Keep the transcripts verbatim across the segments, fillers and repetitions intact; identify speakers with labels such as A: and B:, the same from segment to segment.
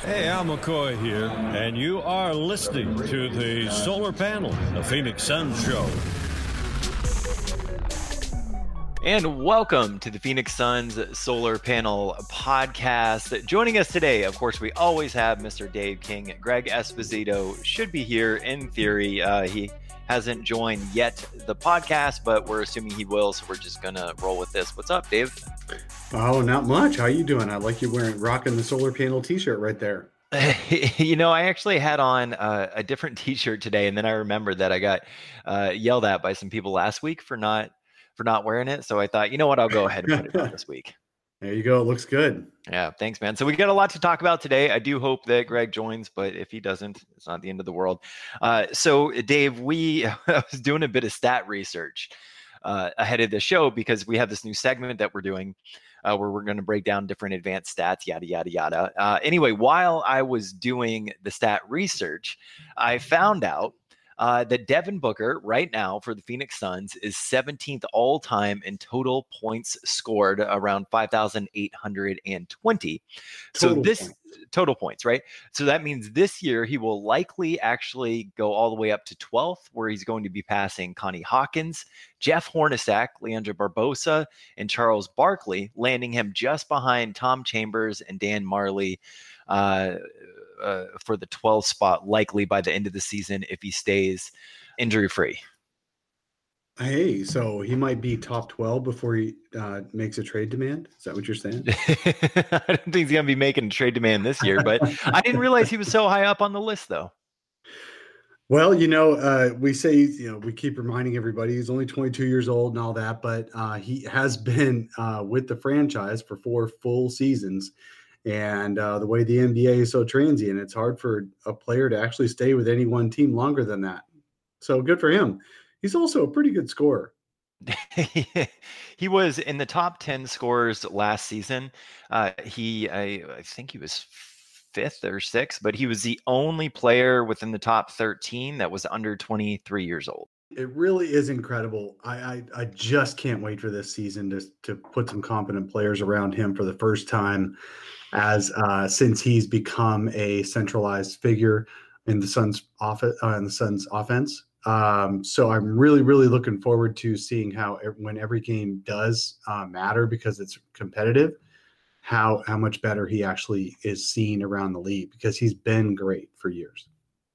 A: Hey, Al McCoy here, and you are listening to the Solar Panel, the Phoenix Suns Show.
B: And welcome to the Phoenix Suns Solar Panel podcast. Joining us today, of course, we always have Mister Dave King. Greg Esposito should be here in theory. Uh, he hasn't joined yet the podcast, but we're assuming he will, so we're just going to roll with this. What's up, Dave?
C: Oh, not much. How you doing? I like you wearing rocking the solar panel t-shirt right there.
B: You know, I actually had on uh, a different t-shirt today, and then I remembered that I got uh, yelled at by some people last week for not for not wearing it. So I thought, you know what, I'll go ahead and put it on this week.
C: There you go. It looks good.
B: Yeah, thanks, man. So we got a lot to talk about today. I do hope that Greg joins, but if he doesn't, it's not the end of the world. Uh, so, Dave, we I was doing a bit of stat research uh, ahead of the show because we have this new segment that we're doing uh, where we're going to break down different advanced stats, yada, yada, yada. Uh, anyway, while I was doing the stat research, I found out Uh, that Devin Booker right now for the Phoenix Suns is seventeenth all time in total points scored, around five thousand eight hundred twenty. So this
C: points.
B: total points, right? So that means this year he will likely actually go all the way up to twelfth, where he's going to be passing Connie Hawkins, Jeff Hornacek, Leandro Barbosa, and Charles Barkley, landing him just behind Tom Chambers and Dan Marley uh, uh, for the twelfth spot, likely by the end of the season if he stays injury-free.
C: Hey, so he might be top twelve before he uh, makes a trade demand? Is that what you're saying?
B: I don't think he's going to be making a trade demand this year, but I didn't realize he was so high up on the list, though.
C: Well, you know, uh, we say, you know, we keep reminding everybody he's only twenty-two years old and all that, but uh, he has been uh, with the franchise for four full seasons. And uh, the way the N B A is so transient, it's hard for a player to actually stay with any one team longer than that. So good for him. He's also a pretty good scorer.
B: He was in the top ten scorers last season. Uh, he, I, I think he was fifth or sixth, but he was the only player within the top thirteen that was under twenty-three years old.
C: It really is incredible. I, I I just can't wait for this season to to put some competent players around him for the first time, as uh, since he's become a centralized figure in the Suns offense. Uh, in the Suns offense. Um, so I'm really really looking forward to seeing how when every game does uh, matter because it's competitive, how how much better he actually is seen around the league because he's been great for years.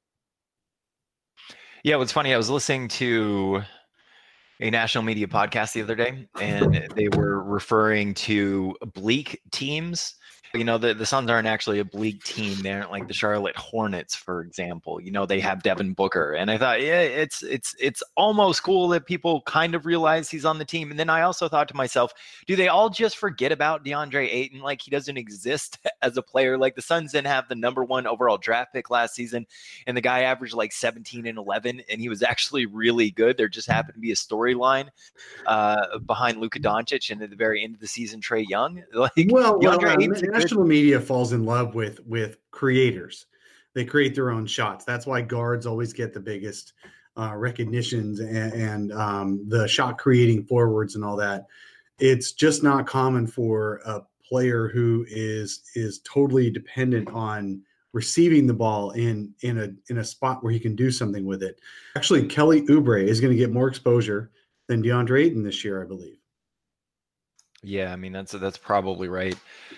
B: Yeah, what's funny, I was listening to a national media podcast the other day, and they were referring to bleak teams. You know, the, the Suns aren't actually a bleak team. They aren't like the Charlotte Hornets, for example. You know, they have Devin Booker. And I thought, yeah, it's it's it's almost cool that people kind of realize he's on the team. And then I also thought to myself, do they all just forget about DeAndre Ayton? Like he doesn't exist as a player. Like the Suns didn't have the number one overall draft pick last season, and the guy averaged like seventeen and eleven, and he was actually really good. There just happened to be a storyline uh, behind Luka Doncic, and at the very end of the season, Trae Young. Like
C: well, well
B: DeAndre
C: uh,
B: Ayton's a
C: national media falls in love with with creators. They create their own shots. That's why guards always get the biggest uh, recognitions and, and um, the shot creating forwards and all that. It's just not common for a player who is is totally dependent on receiving the ball in in a in a spot where he can do something with it. Actually, Kelly Oubre is going to get more exposure than DeAndre Ayton this year, I believe.
B: Yeah, I mean, that's that's probably right.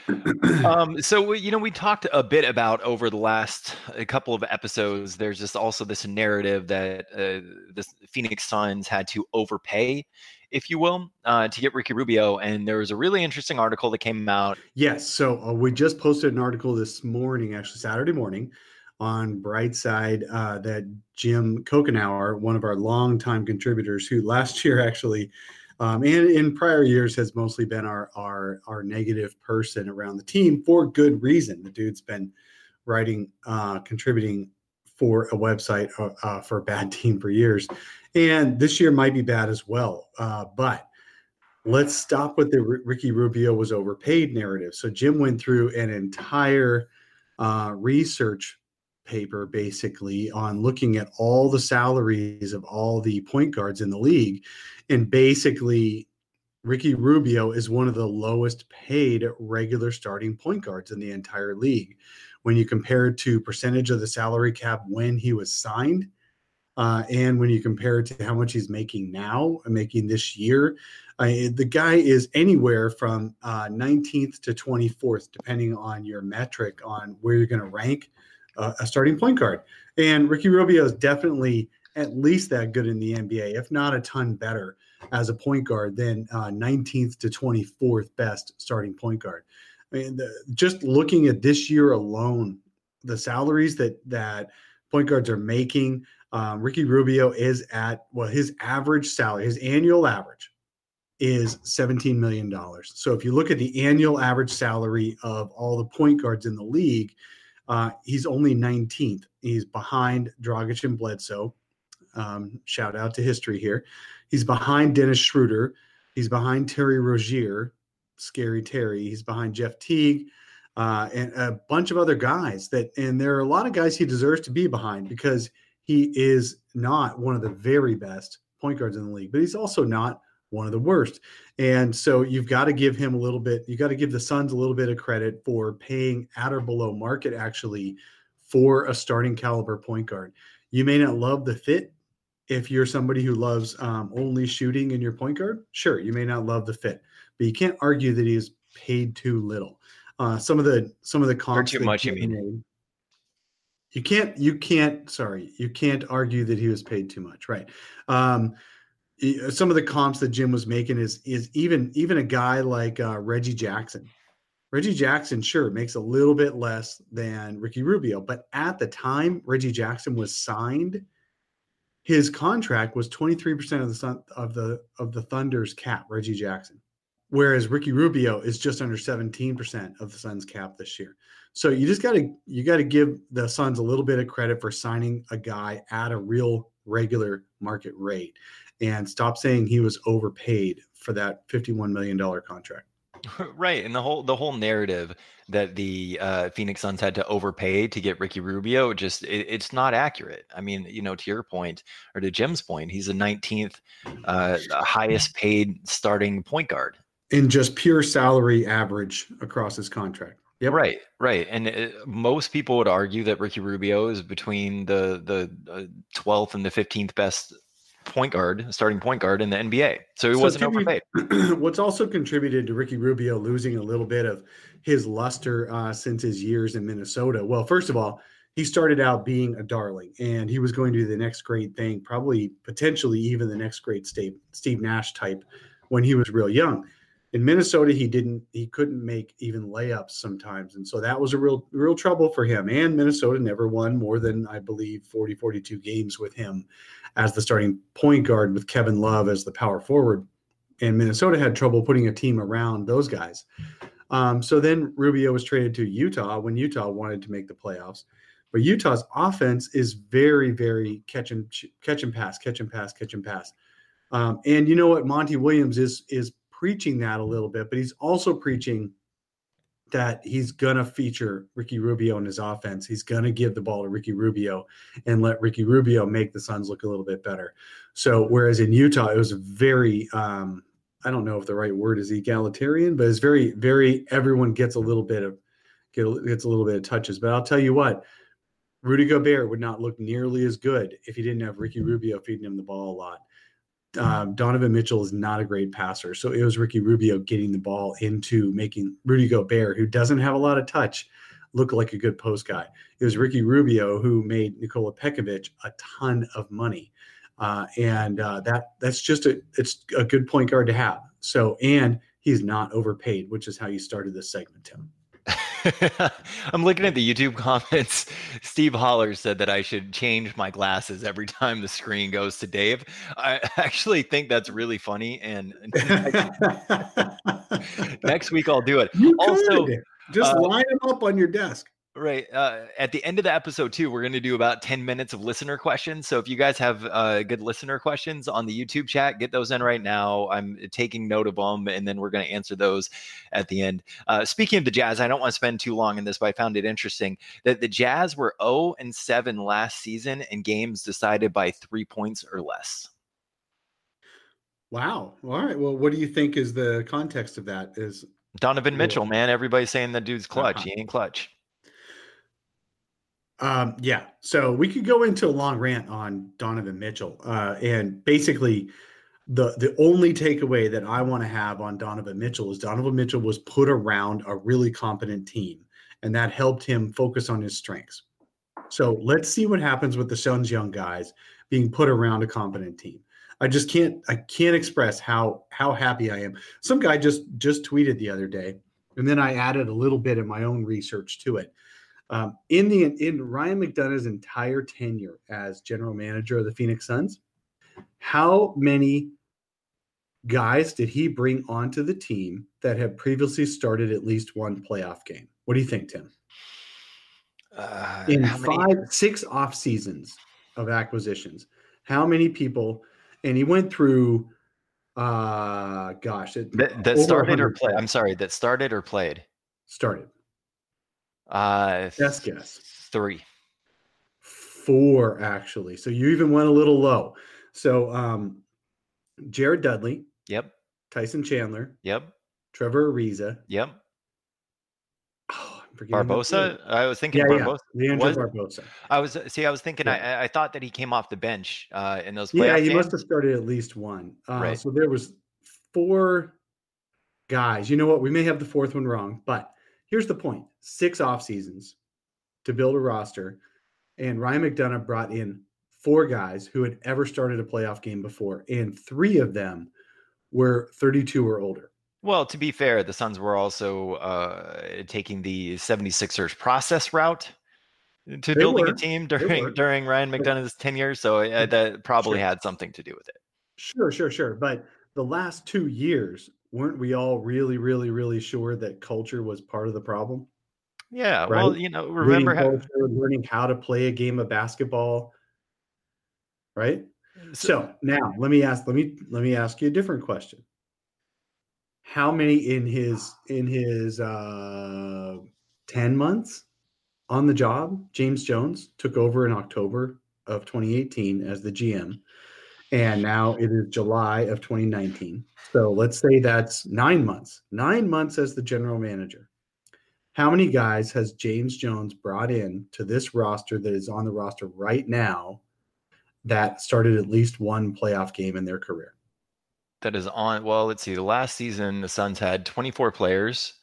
B: Um, so, we, you know, we talked a bit about over the last a couple of episodes, there's just also this narrative that uh, the Phoenix Suns had to overpay, if you will, uh, to get Ricky Rubio. And there was a really interesting article that came out.
C: Yes. So uh, we just posted an article this morning, actually Saturday morning, on Brightside uh, that Jim Kokenauer, one of our longtime contributors, who last year actually Um, and in prior years has mostly been our, our our negative person around the team for good reason. The dude's been writing, uh, contributing for a website uh, uh, for a bad team for years. And this year might be bad as well. Uh, but let's stop with the R- Ricky Rubio was overpaid narrative. So Jim went through an entire uh, research paper basically on looking at all the salaries of all the point guards in the league. And basically, Ricky Rubio is one of the lowest paid regular starting point guards in the entire league, when you compare it to percentage of the salary cap when he was signed, uh, and when you compare it to how much he's making now, making this year, uh, the guy is anywhere from uh, nineteenth to twenty-fourth, depending on your metric on where you're going to rank uh, a starting point guard. And Ricky Rubio is definitely at least that good in the N B A, if not a ton better as a point guard than uh, nineteenth to twenty-fourth best starting point guard. I mean, the, just looking at this year alone, the salaries that that point guards are making, um, Ricky Rubio is at, well, his average salary, his annual average is seventeen million dollars. So if you look at the annual average salary of all the point guards in the league, uh, he's only nineteenth. He's behind Dragic and Bledsoe. Um, shout out to history here. He's behind Dennis Schroeder. He's behind Terry Rozier, Scary Terry. He's behind Jeff Teague, uh, and a bunch of other guys that, and there are a lot of guys he deserves to be behind because he is not one of the very best point guards in the league, but he's also not one of the worst. And so you've got to give him a little bit, you got to give the Suns a little bit of credit for paying at or below market actually for a starting caliber point guard. You may not love the fit. If you're somebody who loves um, only shooting in your point guard, sure, you may not love the fit, but you can't argue that he is paid too little. Uh, some of the some of the comps
B: or too much, you mean?
C: Made, you can't you can't sorry you can't argue that he was paid too much, right? Um, some of the comps that Jim was making is is even even a guy like uh, Reggie Jackson. Reggie Jackson, sure, makes a little bit less than Ricky Rubio, but at the time Reggie Jackson was signed, his contract was twenty-three percent of the sun, of the of the Thunder's cap, Reggie Jackson, whereas Ricky Rubio is just under seventeen percent of the Suns' cap this year. So you just got to you got to give the Suns a little bit of credit for signing a guy at a real regular market rate, and stop saying he was overpaid for that fifty-one million dollars contract.
B: Right, and the whole the whole narrative that the uh, Phoenix Suns had to overpay to get Ricky Rubio, just it, it's not accurate. I mean, you know, to your point or to Jim's point, he's the nineteenth uh, highest paid starting point guard
C: in just pure salary average across his contract.
B: Yep. Right, right, and it, most people would argue that Ricky Rubio is between the the uh, twelfth and the fifteenth best point guard, starting point guard in the N B A. So he so wasn't overpaid.
C: What's also contributed to Ricky Rubio losing a little bit of his luster uh, since his years in Minnesota. Well, first of all, he started out being a darling and he was going to do the next great thing, probably potentially even the next great Steve, Steve Nash type when he was real young. In Minnesota, he didn't, he couldn't make even layups sometimes. And so that was a real, real trouble for him. And Minnesota never won more than, I believe, forty, forty-two games with him as the starting point guard with Kevin Love as the power forward. And Minnesota had trouble putting a team around those guys. Um, so then Rubio was traded to Utah when Utah wanted to make the playoffs. But Utah's offense is very, very catch and, catch and pass, catch and pass, catch and pass. Um, and you know what? Monty Williams is, is, preaching that a little bit, but he's also preaching that he's going to feature Ricky Rubio in his offense. He's going to give the ball to Ricky Rubio and let Ricky Rubio make the Suns look a little bit better. So whereas in Utah, it was very, um, I don't know if the right word is egalitarian, but it's very, very, everyone gets a little bit of, get, gets a little bit of touches. But I'll tell you what, Rudy Gobert would not look nearly as good if he didn't have Ricky Rubio feeding him the ball a lot. Um, Donovan Mitchell is not a great passer. So it was Ricky Rubio getting the ball into making Rudy Gobert, who doesn't have a lot of touch, look like a good post guy. It was Ricky Rubio who made Nikola Pekovic a ton of money. Uh, and uh, that that's just a, it's a good point guard to have. So, and he's not overpaid, which is how you started this segment, Tim.
B: I'm looking at the YouTube comments. Steve Holler said that I should change my glasses every time the screen goes to Dave. I actually think that's really funny. And next week I'll do it.
C: You
B: also,
C: could. Just uh, line them up on your desk.
B: Right. Uh, at the end of the episode, too, we're going to do about ten minutes of listener questions. So if you guys have uh, good listener questions on the YouTube chat, get those in right now. I'm taking note of them, and then we're going to answer those at the end. Uh, speaking of the Jazz, I don't want to spend too long in this, but I found it interesting that the Jazz were oh and seven last season in games decided by three points or less.
C: Wow. All right. Well, what do you think is the context of that? Is
B: Donovan Mitchell, man. Everybody's saying that dude's clutch. Uh-huh. He ain't clutch.
C: Um, yeah. So we could go into a long rant on Donovan Mitchell. Uh, and basically, the the only takeaway that I want to have on Donovan Mitchell is Donovan Mitchell was put around a really competent team, and that helped him focus on his strengths. So let's see what happens with the Suns' young guys being put around a competent team. I just can't I can't express how how happy I am. Some guy just just tweeted the other day, and then I added a little bit of my own research to it. Um, in the in Ryan McDonough's entire tenure as general manager of the Phoenix Suns, how many guys did he bring onto the team that have previously started at least one playoff game? What do you think, Tim?
B: Uh,
C: in
B: how many?
C: five, six off seasons of acquisitions, how many people? And he went through, uh, gosh, it,
B: That, that
C: over
B: started or
C: one hundred
B: played? I'm
C: players.
B: sorry, that started or played?
C: Started.
B: Uh,
C: Best guess.
B: Three.
C: Four, actually. So you even went a little low. So um, Jared Dudley,
B: Yep.
C: Tyson Chandler,
B: Yep.
C: Trevor Ariza.
B: Yep.
C: Oh, I'm forgetting the
B: Barbosa.
C: third.
B: I was thinking
C: Yeah,
B: Barbosa.
C: yeah. Leandro
B: Was-
C: Barbosa.
B: I was see. I was thinking.
C: Yeah.
B: I I thought that he came off the bench uh, in those playoff
C: Yeah, he
B: games.
C: must have started at least one. Uh,
B: Right.
C: So there was four guys. You know what? We may have the fourth one wrong, but here's the point: six off seasons to build a roster, and Ryan McDonough brought in four guys who had ever started a playoff game before, and three of them were thirty-two or older.
B: Well, to be fair, the Suns were also uh, taking the seventy-sixers process route to
C: They
B: building
C: were.
B: a team
C: They
B: during
C: were.
B: during Ryan McDonough's tenure, so uh, that probably
C: Sure.
B: had something to do with it.
C: Sure, sure, sure. But the last two years, weren't we all really, really, really sure that culture was part of the problem?
B: Yeah,
C: Right?
B: well, you know,
C: Reading
B: remember how
C: culture, learning how to play a game of basketball, right? So now let me ask let me let me ask you a different question. How many in his in his uh, ten months on the job, James Jones took over in October of twenty eighteen as the G M, and now it is July of twenty nineteen. So let's say that's nine months. Nine months as the general manager. How many guys has James Jones brought in to this roster that is on the roster right now that started at least one playoff game in their career?
B: that is on. Well, let's see. The last season, the Suns had twenty-four players.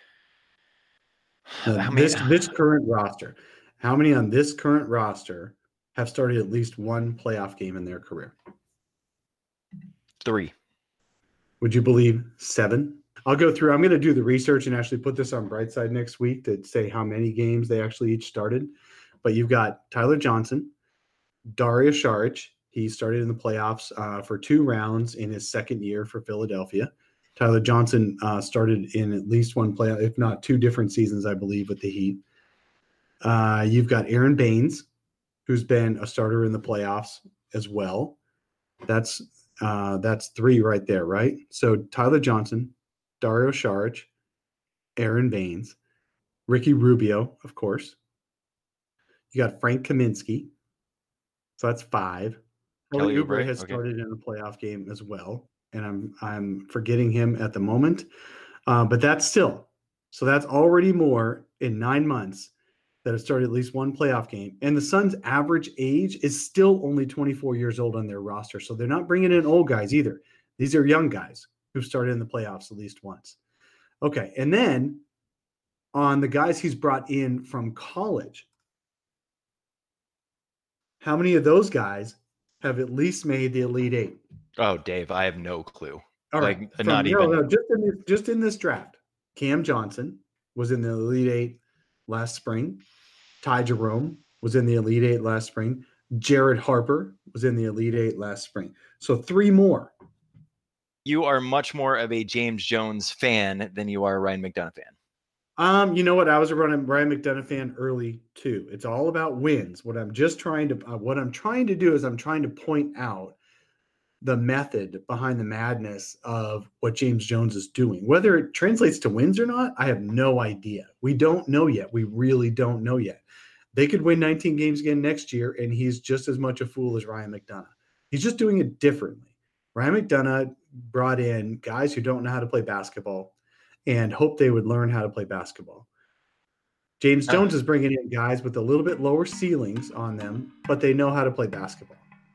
C: Uh,
B: How many?
C: this this current roster, how many on this current roster have started at least one playoff game in their career?
B: Three.
C: Would you believe seven? I'll go through. I'm going to do the research and actually put this on Brightside next week to say how many games they actually each started. But you've got Tyler Johnson, Dario Saric. He started in the playoffs uh, for two rounds in his second year for Philadelphia. Tyler Johnson uh, started in at least one playoff, if not two different seasons, I believe, with the Heat. Uh, you've got Aaron Baines, who's been a starter in the playoffs as well. That's uh, that's three right there, right? So Tyler Johnson, Dario Saric, Aaron Baines, Ricky Rubio, of course. You got Frank Kaminsky. So that's five. Kelly
B: Kelly
C: Oubre
B: Oubre,
C: has
B: okay.
C: started in a playoff game as well, and I'm I'm forgetting him at the moment. Uh, but that's still so that's already more in nine months that have started at least one playoff game. And the Suns' average age is still only twenty-four years old on their roster, so they're not bringing in old guys either. These are young guys who've started in the playoffs at least once. Okay, and then on the guys he's brought in from college, how many of those guys have at least made the Elite Eight?
B: Oh, Dave, I have no clue.
C: All right,
B: Like,
C: From-
B: not
C: no,
B: even.
C: no, just in this, just in this draft, Cam Johnson was in the Elite Eight last spring. Ty Jerome was in the Elite Eight last spring. Jared Harper was in the Elite Eight last spring. So three more.
B: You are much more of a James Jones fan than you are a Ryan McDonough fan.
C: Um, you know what? I was a Ryan Ryan McDonough fan early too. It's all about wins. What I'm just trying to uh, what I'm trying to do is I'm trying to point out the method behind the madness of what James Jones is doing. Whether it translates to wins or not, I have no idea. We don't know yet. We really don't know yet. They could win nineteen games again next year, and he's just as much a fool as Ryan McDonough. He's just doing it differently. Ryan McDonough brought in guys who don't know how to play basketball and hoped they would learn how to play basketball. James Jones is bringing in guys with a little bit lower ceilings on them, but they know how to play basketball.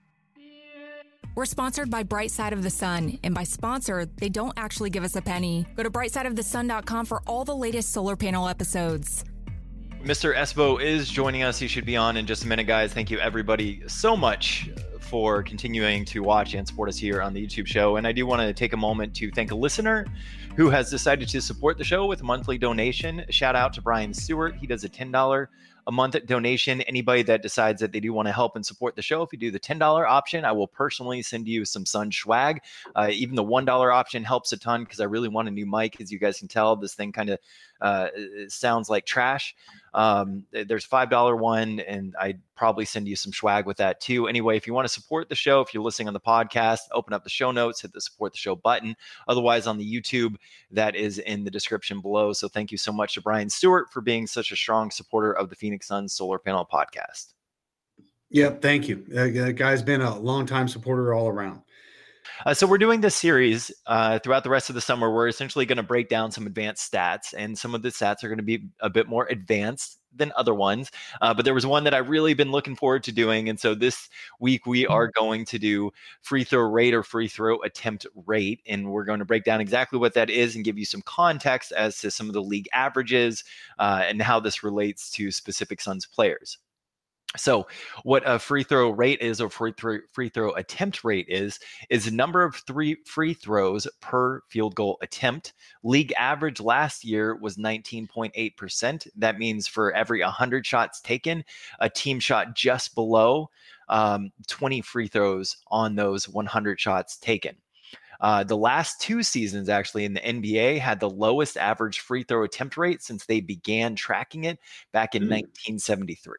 D: We're sponsored by Bright Side of the Sun, and by sponsor, they don't actually give us a penny. Go to bright side of the sun dot com for all the latest solar panel episodes.
B: Mister Espo is joining us. He should be on in just a minute, guys. Thank you, everybody, so much for continuing to watch and support us here on the YouTube show. And I do want to take a moment to thank a listener who has decided to support the show with a monthly donation. Shout out to Brian Stewart. He does a ten dollars a month donation. Anybody that decides that they do want to help and support the show, if you do the ten dollars option, I will personally send you some Sun swag. Uh, even the one dollar option helps a ton because I really want a new mic. As you guys can tell, this thing kind of uh, sounds like trash. Um, there's five dollars one, and I'd probably send you some swag with that too. Anyway, if you want to support the show, if you're listening on the podcast, open up the show notes, hit the support the show button. Otherwise, on the YouTube, that is in the description below. So thank you so much to Brian Stewart for being such a strong supporter of the Phoenix Suns Solar Panel Podcast.
C: Yep, thank you. That guy's been a longtime supporter all around.
B: Uh, so we're doing this series uh, throughout the rest of the summer. We're essentially going to break down some advanced stats, and some of the stats are going to be a bit more advanced than other ones. Uh, but there was one that I've really been looking forward to doing. And so this week we are going to do free throw rate or free throw attempt rate. And we're going to break down exactly what that is and give you some context as to some of the league averages uh, and how this relates to specific Suns players. So what a free throw rate is, or free throw, free throw attempt rate is, is the number of three free throws per field goal attempt. League average last year was nineteen point eight percent. That means for every one hundred shots taken, a team shot just below um, twenty free throws on those one hundred shots taken. Uh, the last two seasons, actually, in the N B A had the lowest average free throw attempt rate since they began tracking it back in mm. nineteen seventy-three.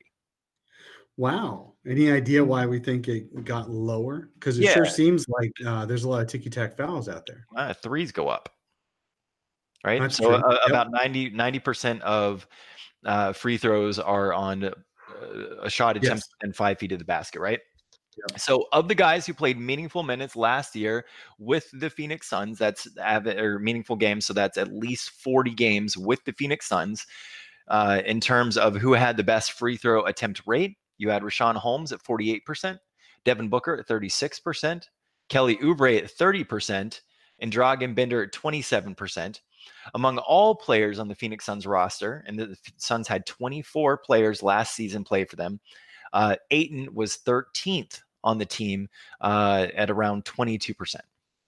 C: Wow. Any idea why we think it got lower? Because it
B: yeah.
C: sure seems like uh, there's a lot of ticky-tack fouls out there.
B: Uh, threes go up, right?
C: That's
B: so uh,
C: yep.
B: about ninety percent of uh, free throws are on uh, a shot attempt yes. and five feet of the basket, right? Yep. So of the guys who played meaningful minutes last year with the Phoenix Suns, that's or meaningful games, so that's at least forty games with the Phoenix Suns. Uh, in terms of who had the best free throw attempt rate, you had Richaun Holmes at forty-eight percent, Devin Booker at thirty-six percent, Kelly Oubre at thirty percent, and Dragan Bender at twenty-seven percent. Among all players on the Phoenix Suns roster, and the Suns had twenty-four players last season play for them, uh, Ayton was thirteenth on the team uh, at around twenty-two percent.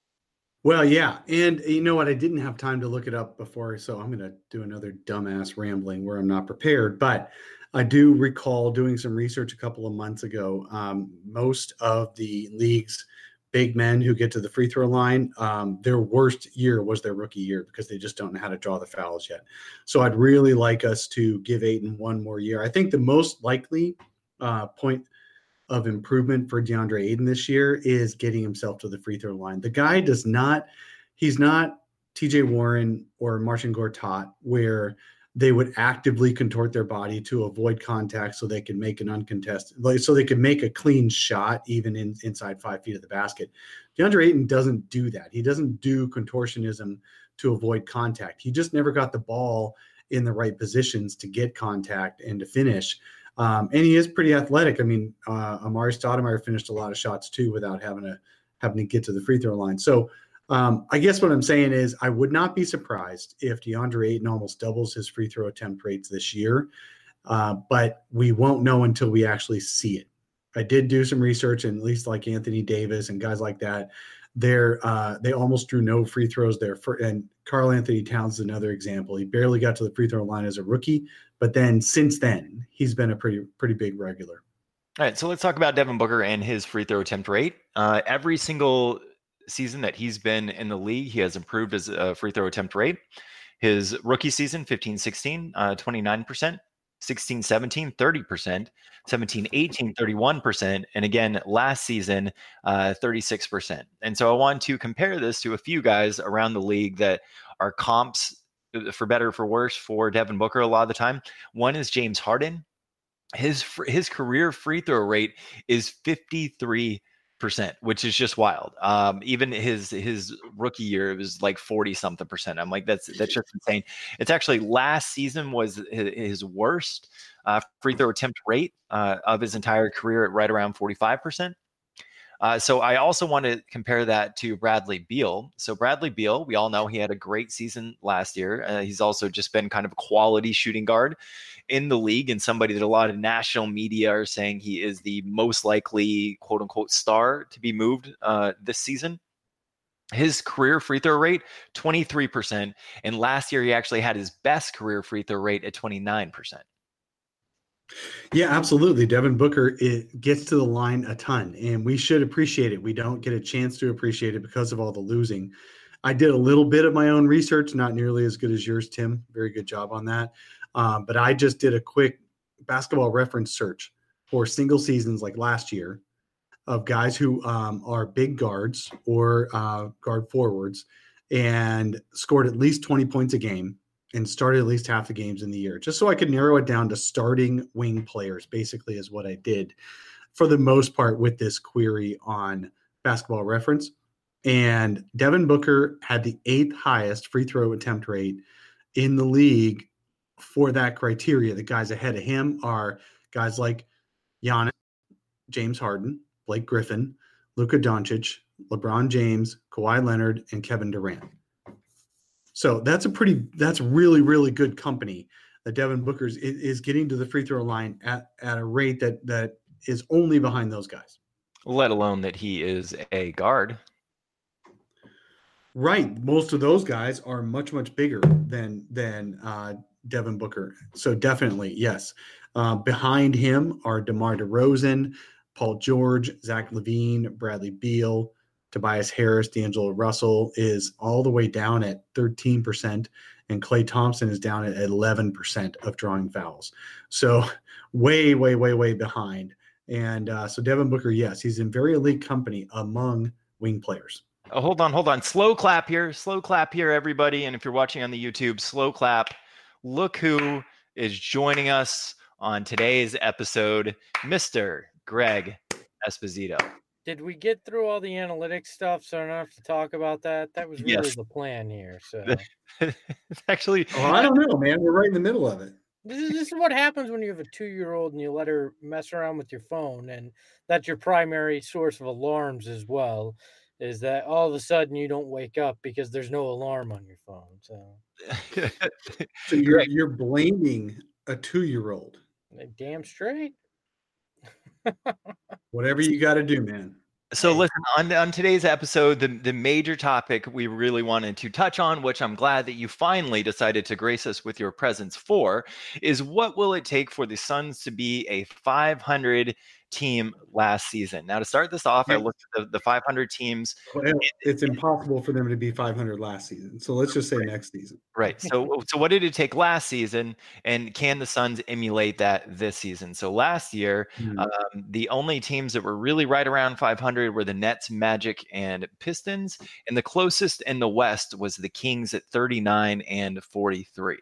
C: Well, yeah. And you know what? I didn't have time to look it up before, so I'm going to do another dumbass rambling where I'm not prepared. But I do recall doing some research a couple of months ago. Um, most of the league's big men who get to the free throw line, um, their worst year was their rookie year because they just don't know how to draw the fouls yet. So I'd really like us to give Ayton one more year. I think the most likely uh, point of improvement for DeAndre Ayton this year is getting himself to the free throw line. The guy does not, he's not T J Warren or Marcin Gortat, where they would actively contort their body to avoid contact so they can make an uncontested, like so they could make a clean shot even in, inside five feet of the basket. DeAndre Ayton doesn't do that. He doesn't do contortionism to avoid contact. He just never got the ball in the right positions to get contact and to finish. Um, and he is pretty athletic. I mean, uh, Amari Stoudemire finished a lot of shots too without having to having to get to the free throw line. So um, I guess what I'm saying is I would not be surprised if DeAndre Ayton almost doubles his free throw attempt rates this year, uh, but we won't know until we actually see it. I did do some research, and at least like Anthony Davis and guys like that, they're uh, they almost drew no free throws there. For, and Karl Anthony Towns is another example. He barely got to the free throw line as a rookie, but then since then he's been a pretty pretty big regular.
B: All right, so let's talk about Devin Booker and his free throw attempt rate. Uh, every single season that he's been in the league, he has improved his uh, free throw attempt rate. His rookie season, fifteen sixteen, uh, twenty-nine percent, sixteen seventeen, thirty percent, seventeen eighteen, thirty-one percent, and again, last season, uh, thirty-six percent. And so I want to compare this to a few guys around the league that are comps, for better or for worse, for Devin Booker a lot of the time. One is James Harden. His his career free throw rate is fifty-three percent, which is just wild. Um, even his his rookie year, it was like forty something percent. I'm like, that's that's just insane. It's actually last season was his, his worst uh, free throw attempt rate uh, of his entire career at right around forty-five percent. Uh, so I also want to compare that to Bradley Beal. So Bradley Beal, we all know he had a great season last year. Uh, he's also just been kind of a quality shooting guard in the league, and somebody that a lot of national media are saying he is the most likely quote unquote star to be moved uh, this season. His career free throw rate, twenty-three percent. And last year, he actually had his best career free throw rate at twenty-nine percent.
C: Yeah, absolutely. Devin Booker, it gets to the line a ton, and we should appreciate it. We don't get a chance to appreciate it because of all the losing. I did a little bit of my own research, not nearly as good as yours, Tim. Very good job on that. Um, but I just did a quick basketball reference search for single seasons like last year of guys who um, are big guards or uh, guard forwards and scored at least twenty points a game and started at least half the games in the year, just so I could narrow it down to starting wing players, basically is what I did for the most part with this query on Basketball Reference. And Devin Booker had the eighth highest free throw attempt rate in the league for that criteria. The guys ahead of him are guys like Giannis, James Harden, Blake Griffin, Luka Doncic, LeBron James, Kawhi Leonard, and Kevin Durant. So that's a pretty, that's really, really good company that Devin Booker is, is getting to the free throw line at, at a rate that that is only behind those guys.
B: Let alone that he is a guard.
C: Right. Most of those guys are much, much bigger than, than uh, Devin Booker. So definitely, yes. Uh, behind him are DeMar DeRozan, Paul George, Zach LaVine, Bradley Beal, Tobias Harris, D'Angelo Russell is all the way down at thirteen percent, and Klay Thompson is down at eleven percent of drawing fouls. So way, way, way, way behind. And uh, so Devin Booker, yes, he's in very elite company among wing players.
B: Oh, hold on, hold on. Slow clap here. Slow clap here, everybody. And if you're watching on the YouTube, slow clap. Look who is joining us on today's episode, Mister Greg Esposito.
E: Did we get through all the analytics stuff so I don't have to talk about that? That was really
B: Yes.
E: the plan here. So
B: Actually,
C: Oh, I don't know, man. We're right in the middle of it.
E: this is, this is what happens when you have a two-year-old and you let her mess around with your phone, and that's your primary source of alarms as well, is that all of a sudden you don't wake up because there's no alarm on your phone. So,
C: So you're, you're blaming a two-year-old.
E: damn straight.
C: Whatever you got to do, man.
B: So listen, on, on today's episode, the, the major topic we really wanted to touch on, which I'm glad that you finally decided to grace us with your presence for, is what will it take for the Suns to be a five hundred team last season? Now, to start this off, I looked at the, the five hundred teams.
C: Well, it's impossible for them to be five hundred last season. So let's just say
B: Right.
C: next season.
B: Right. So, so what did it take last season, and can the Suns emulate that this season? So last year,
C: Hmm.
B: um, the only teams that were really right around five hundred were the Nets, Magic, and Pistons, and the closest in the West was the Kings at thirty-nine and forty-three.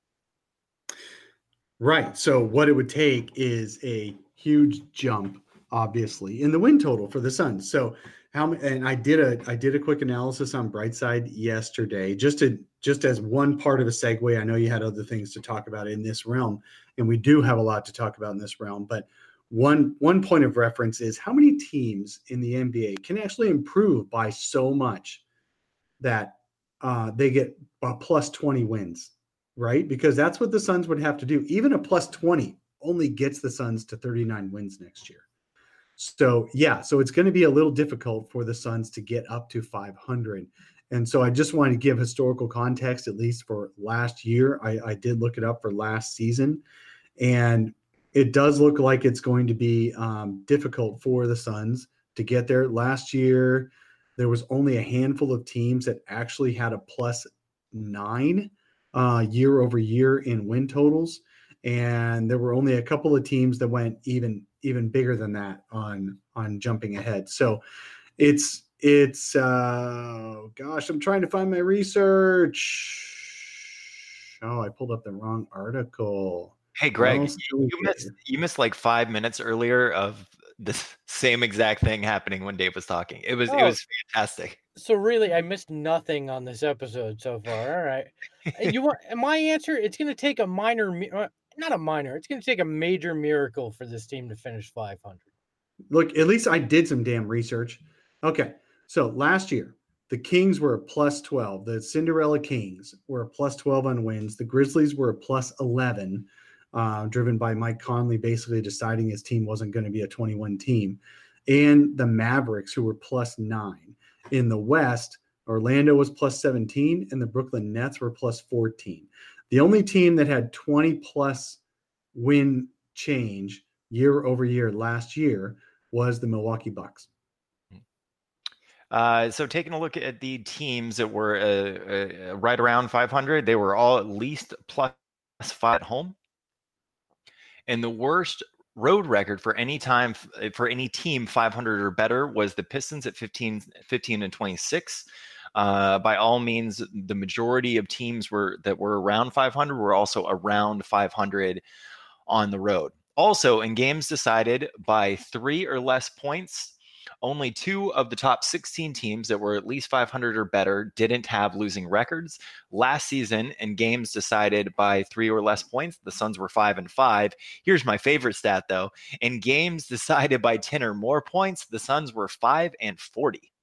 C: Right. So what it would take is a huge jump, obviously, in the win total for the Suns. So how many? And I did a I did a quick analysis on Brightside yesterday, just to just as one part of a segue. I know you had other things to talk about in this realm, and we do have a lot to talk about in this realm. But one one point of reference is how many teams in the N B A can actually improve by so much that uh, they get a plus twenty wins, right? Because that's what the Suns would have to do. Even a plus twenty only gets the Suns to thirty-nine wins next year. So, yeah, so it's going to be a little difficult for the Suns to get up to five hundred. And so I just wanted to give historical context, at least for last year. I, I did look it up for last season, and it does look like it's going to be um, difficult for the Suns to get there. Last year, there was only a handful of teams that actually had a plus nine uh, year over year in win totals. And there were only a couple of teams that went even even bigger than that on on jumping ahead. So it's it's uh, gosh, I'm trying to find my research. Oh, I pulled up the wrong article.
B: Hey, Greg,
C: Well,
B: you, you missed you missed like five minutes earlier of the same exact thing happening when Dave was talking. It was
E: Oh.
B: it was fantastic.
E: So really, I missed nothing on this episode so far. All right, you want my answer? It's going to take a minor, not a minor. It's going to take a major miracle for this team to finish five hundred.
C: Look, at least I did some damn research. Okay, so last year the Kings were a plus twelve. The Cinderella Kings were a plus twelve on wins. The Grizzlies were a plus eleven, uh, driven by Mike Conley basically deciding his team wasn't going to be a twenty-one team, and the Mavericks, who were plus nine. In the West, Orlando was plus seventeen, and the Brooklyn Nets were plus fourteen. The only team that had twenty plus win change year over year last year was the Milwaukee Bucks.
B: Uh, so taking a look at the teams that were uh, uh, right around five hundred, they were all at least plus five at home. And the worst road record for any time for any team five hundred or better was the Pistons at fifteen, fifteen and twenty-six. Uh, by all means, the majority of teams were that were around five hundred were also around five hundred on the road. Also, in games decided by three or less points, only two of the top sixteen teams that were at least five hundred or better didn't have losing records. Last season, in games decided by three or less points, the Suns were five and five. Here's my favorite stat, though. In games decided by ten or more points, the Suns were five and forty.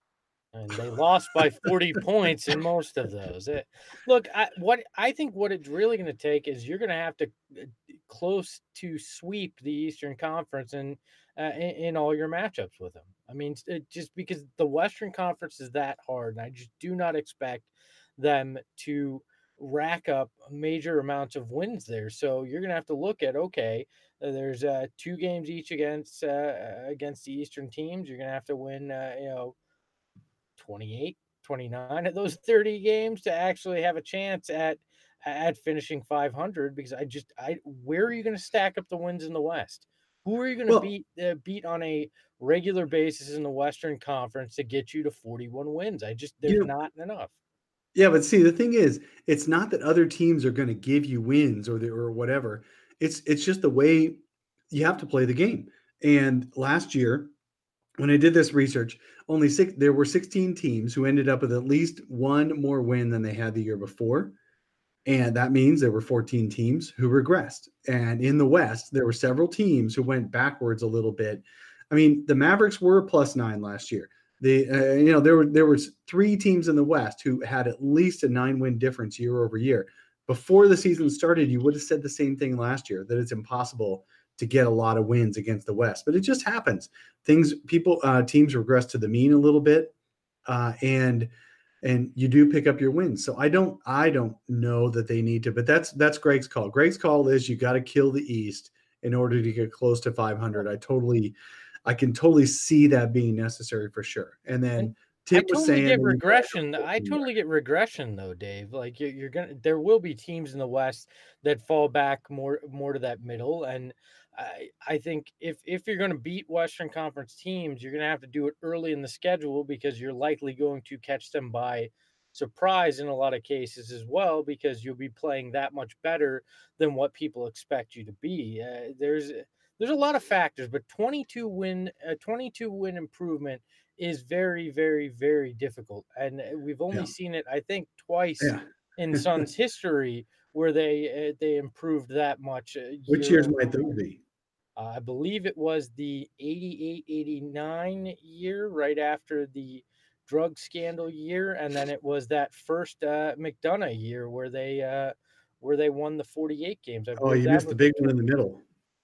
E: And they lost by forty points in most of those. It, look, I, what I think what it's really going to take is you're going to have to uh, close to sweep the Eastern Conference and uh, in, in all your matchups with them. I mean, it, just because the Western Conference is that hard, and I just do not expect them to rack up major amounts of wins there. So you're going to have to look at, okay, uh, there's uh, two games each against uh, against the Eastern teams. You're going to have to win, uh, you know, twenty-eight, twenty-nine of those thirty games to actually have a chance at at finishing five hundred, because I just I where are you going to stack up the wins in the West? Who are you going to well, beat uh, beat on a regular basis in the Western Conference to get you to forty-one wins? I just there's not enough.
C: Yeah, but see, the thing is, it's not that other teams are going to give you wins or the, or whatever. It's it's just the way you have to play the game. And last year, when I did this research, only six there were sixteen teams who ended up with at least one more win than they had the year before. And that means there were fourteen teams who regressed. And in the West, there were several teams who went backwards a little bit. I mean, the Mavericks were plus nine last year. The uh, you know there were there was three teams in the West who had at least a nine win difference year over year. Before the season started, you would have said the same thing last year, that it's impossible to get a lot of wins against the West, but it just happens. Things people uh, teams regress to the mean a little bit, uh, and and you do pick up your wins. So I don't I don't know that they need to, but that's that's Greg's call. Greg's call is you got to kill the East in order to get close to five hundred. I totally. I can totally see that being necessary for sure. And then Tim
E: I totally
C: was saying,
E: get regression. I totally get regression though, Dave. Like you're, you're gonna, there will be teams in the West that fall back more, more to that middle. And I, I think if if you're going to beat Western Conference teams, you're going to have to do it early in the schedule, because you're likely going to catch them by surprise in a lot of cases as well, because you'll be playing that much better than what people expect you to be. Uh, there's There's a lot of factors, but twenty-two win, a twenty-two win improvement is very, very, very difficult, and we've only yeah. seen it, I think, twice yeah. in Suns history where they uh, they improved that much. Uh,
C: Which years might those be?
E: Uh, I believe it was the eighty-eight eighty-nine year, right after the drug scandal year, and then it was that first uh, McDonough year where they uh, where they won the forty-eight games. I
C: oh, you missed the big one in the middle.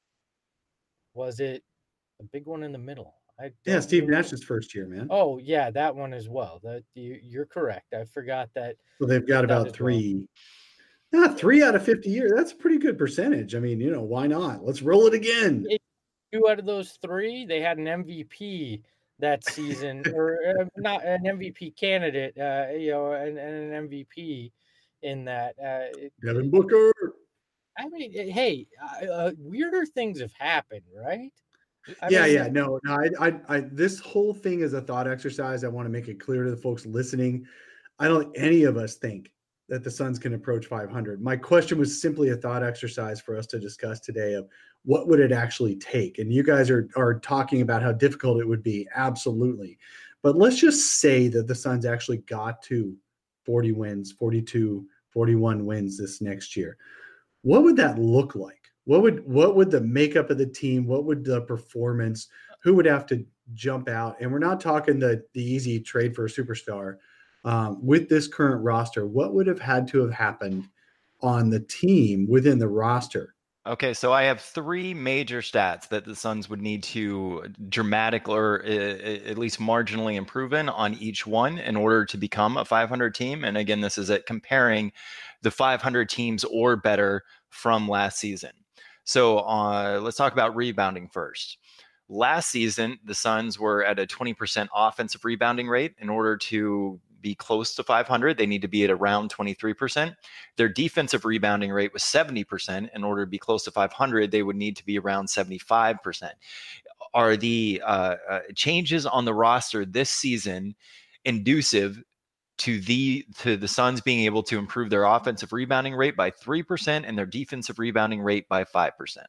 E: Was it a big one in the middle? I
C: yeah, Steve know. Nash's first year, man.
E: Oh yeah, that one as well. That you, you're correct. I forgot that.
C: So they've got about three. Well. Not three out of fifty years. That's a pretty good percentage. I mean, you know, why not? Let's roll it again.
E: It, two out of those three, they had an M V P that season, or uh, not an M V P candidate. Uh, you know, and, and an M V P in that. Uh,
C: Devin Booker.
E: I mean, hey, uh, weirder things have happened, right? I
C: yeah,
E: mean,
C: yeah, no, no. I, I, I, this whole thing is a thought exercise. I want to make it clear to the folks listening. I don't think any of us think that the Suns can approach five hundred. My question was simply a thought exercise for us to discuss today of what would it actually take? And you guys are, are talking about how difficult it would be. Absolutely. But let's just say that the Suns actually got to forty wins, forty-two, forty-one wins this next year. What would that look like? What would what would the makeup of the team? What would the performance? Who would have to jump out? And we're not talking the the easy trade for a superstar. Um, with this current roster, what would have had to have happened on the team within the roster?
B: Okay, so I have three major stats that the Suns would need to dramatic or uh, at least marginally improve in on each one in order to become a five hundred team. And again, this is it comparing the five hundred teams or better from last season. So uh, let's talk about rebounding first. Last season, the Suns were at a twenty percent offensive rebounding rate. In order to be close to five hundred, they need to be at around twenty-three percent. Their defensive rebounding rate was seventy percent. In order to be close to five hundred, they would need to be around seventy-five percent. Are the uh, uh, changes on the roster this season inducive to the to the Suns being able to improve their offensive rebounding rate by three percent and their defensive rebounding rate by five percent?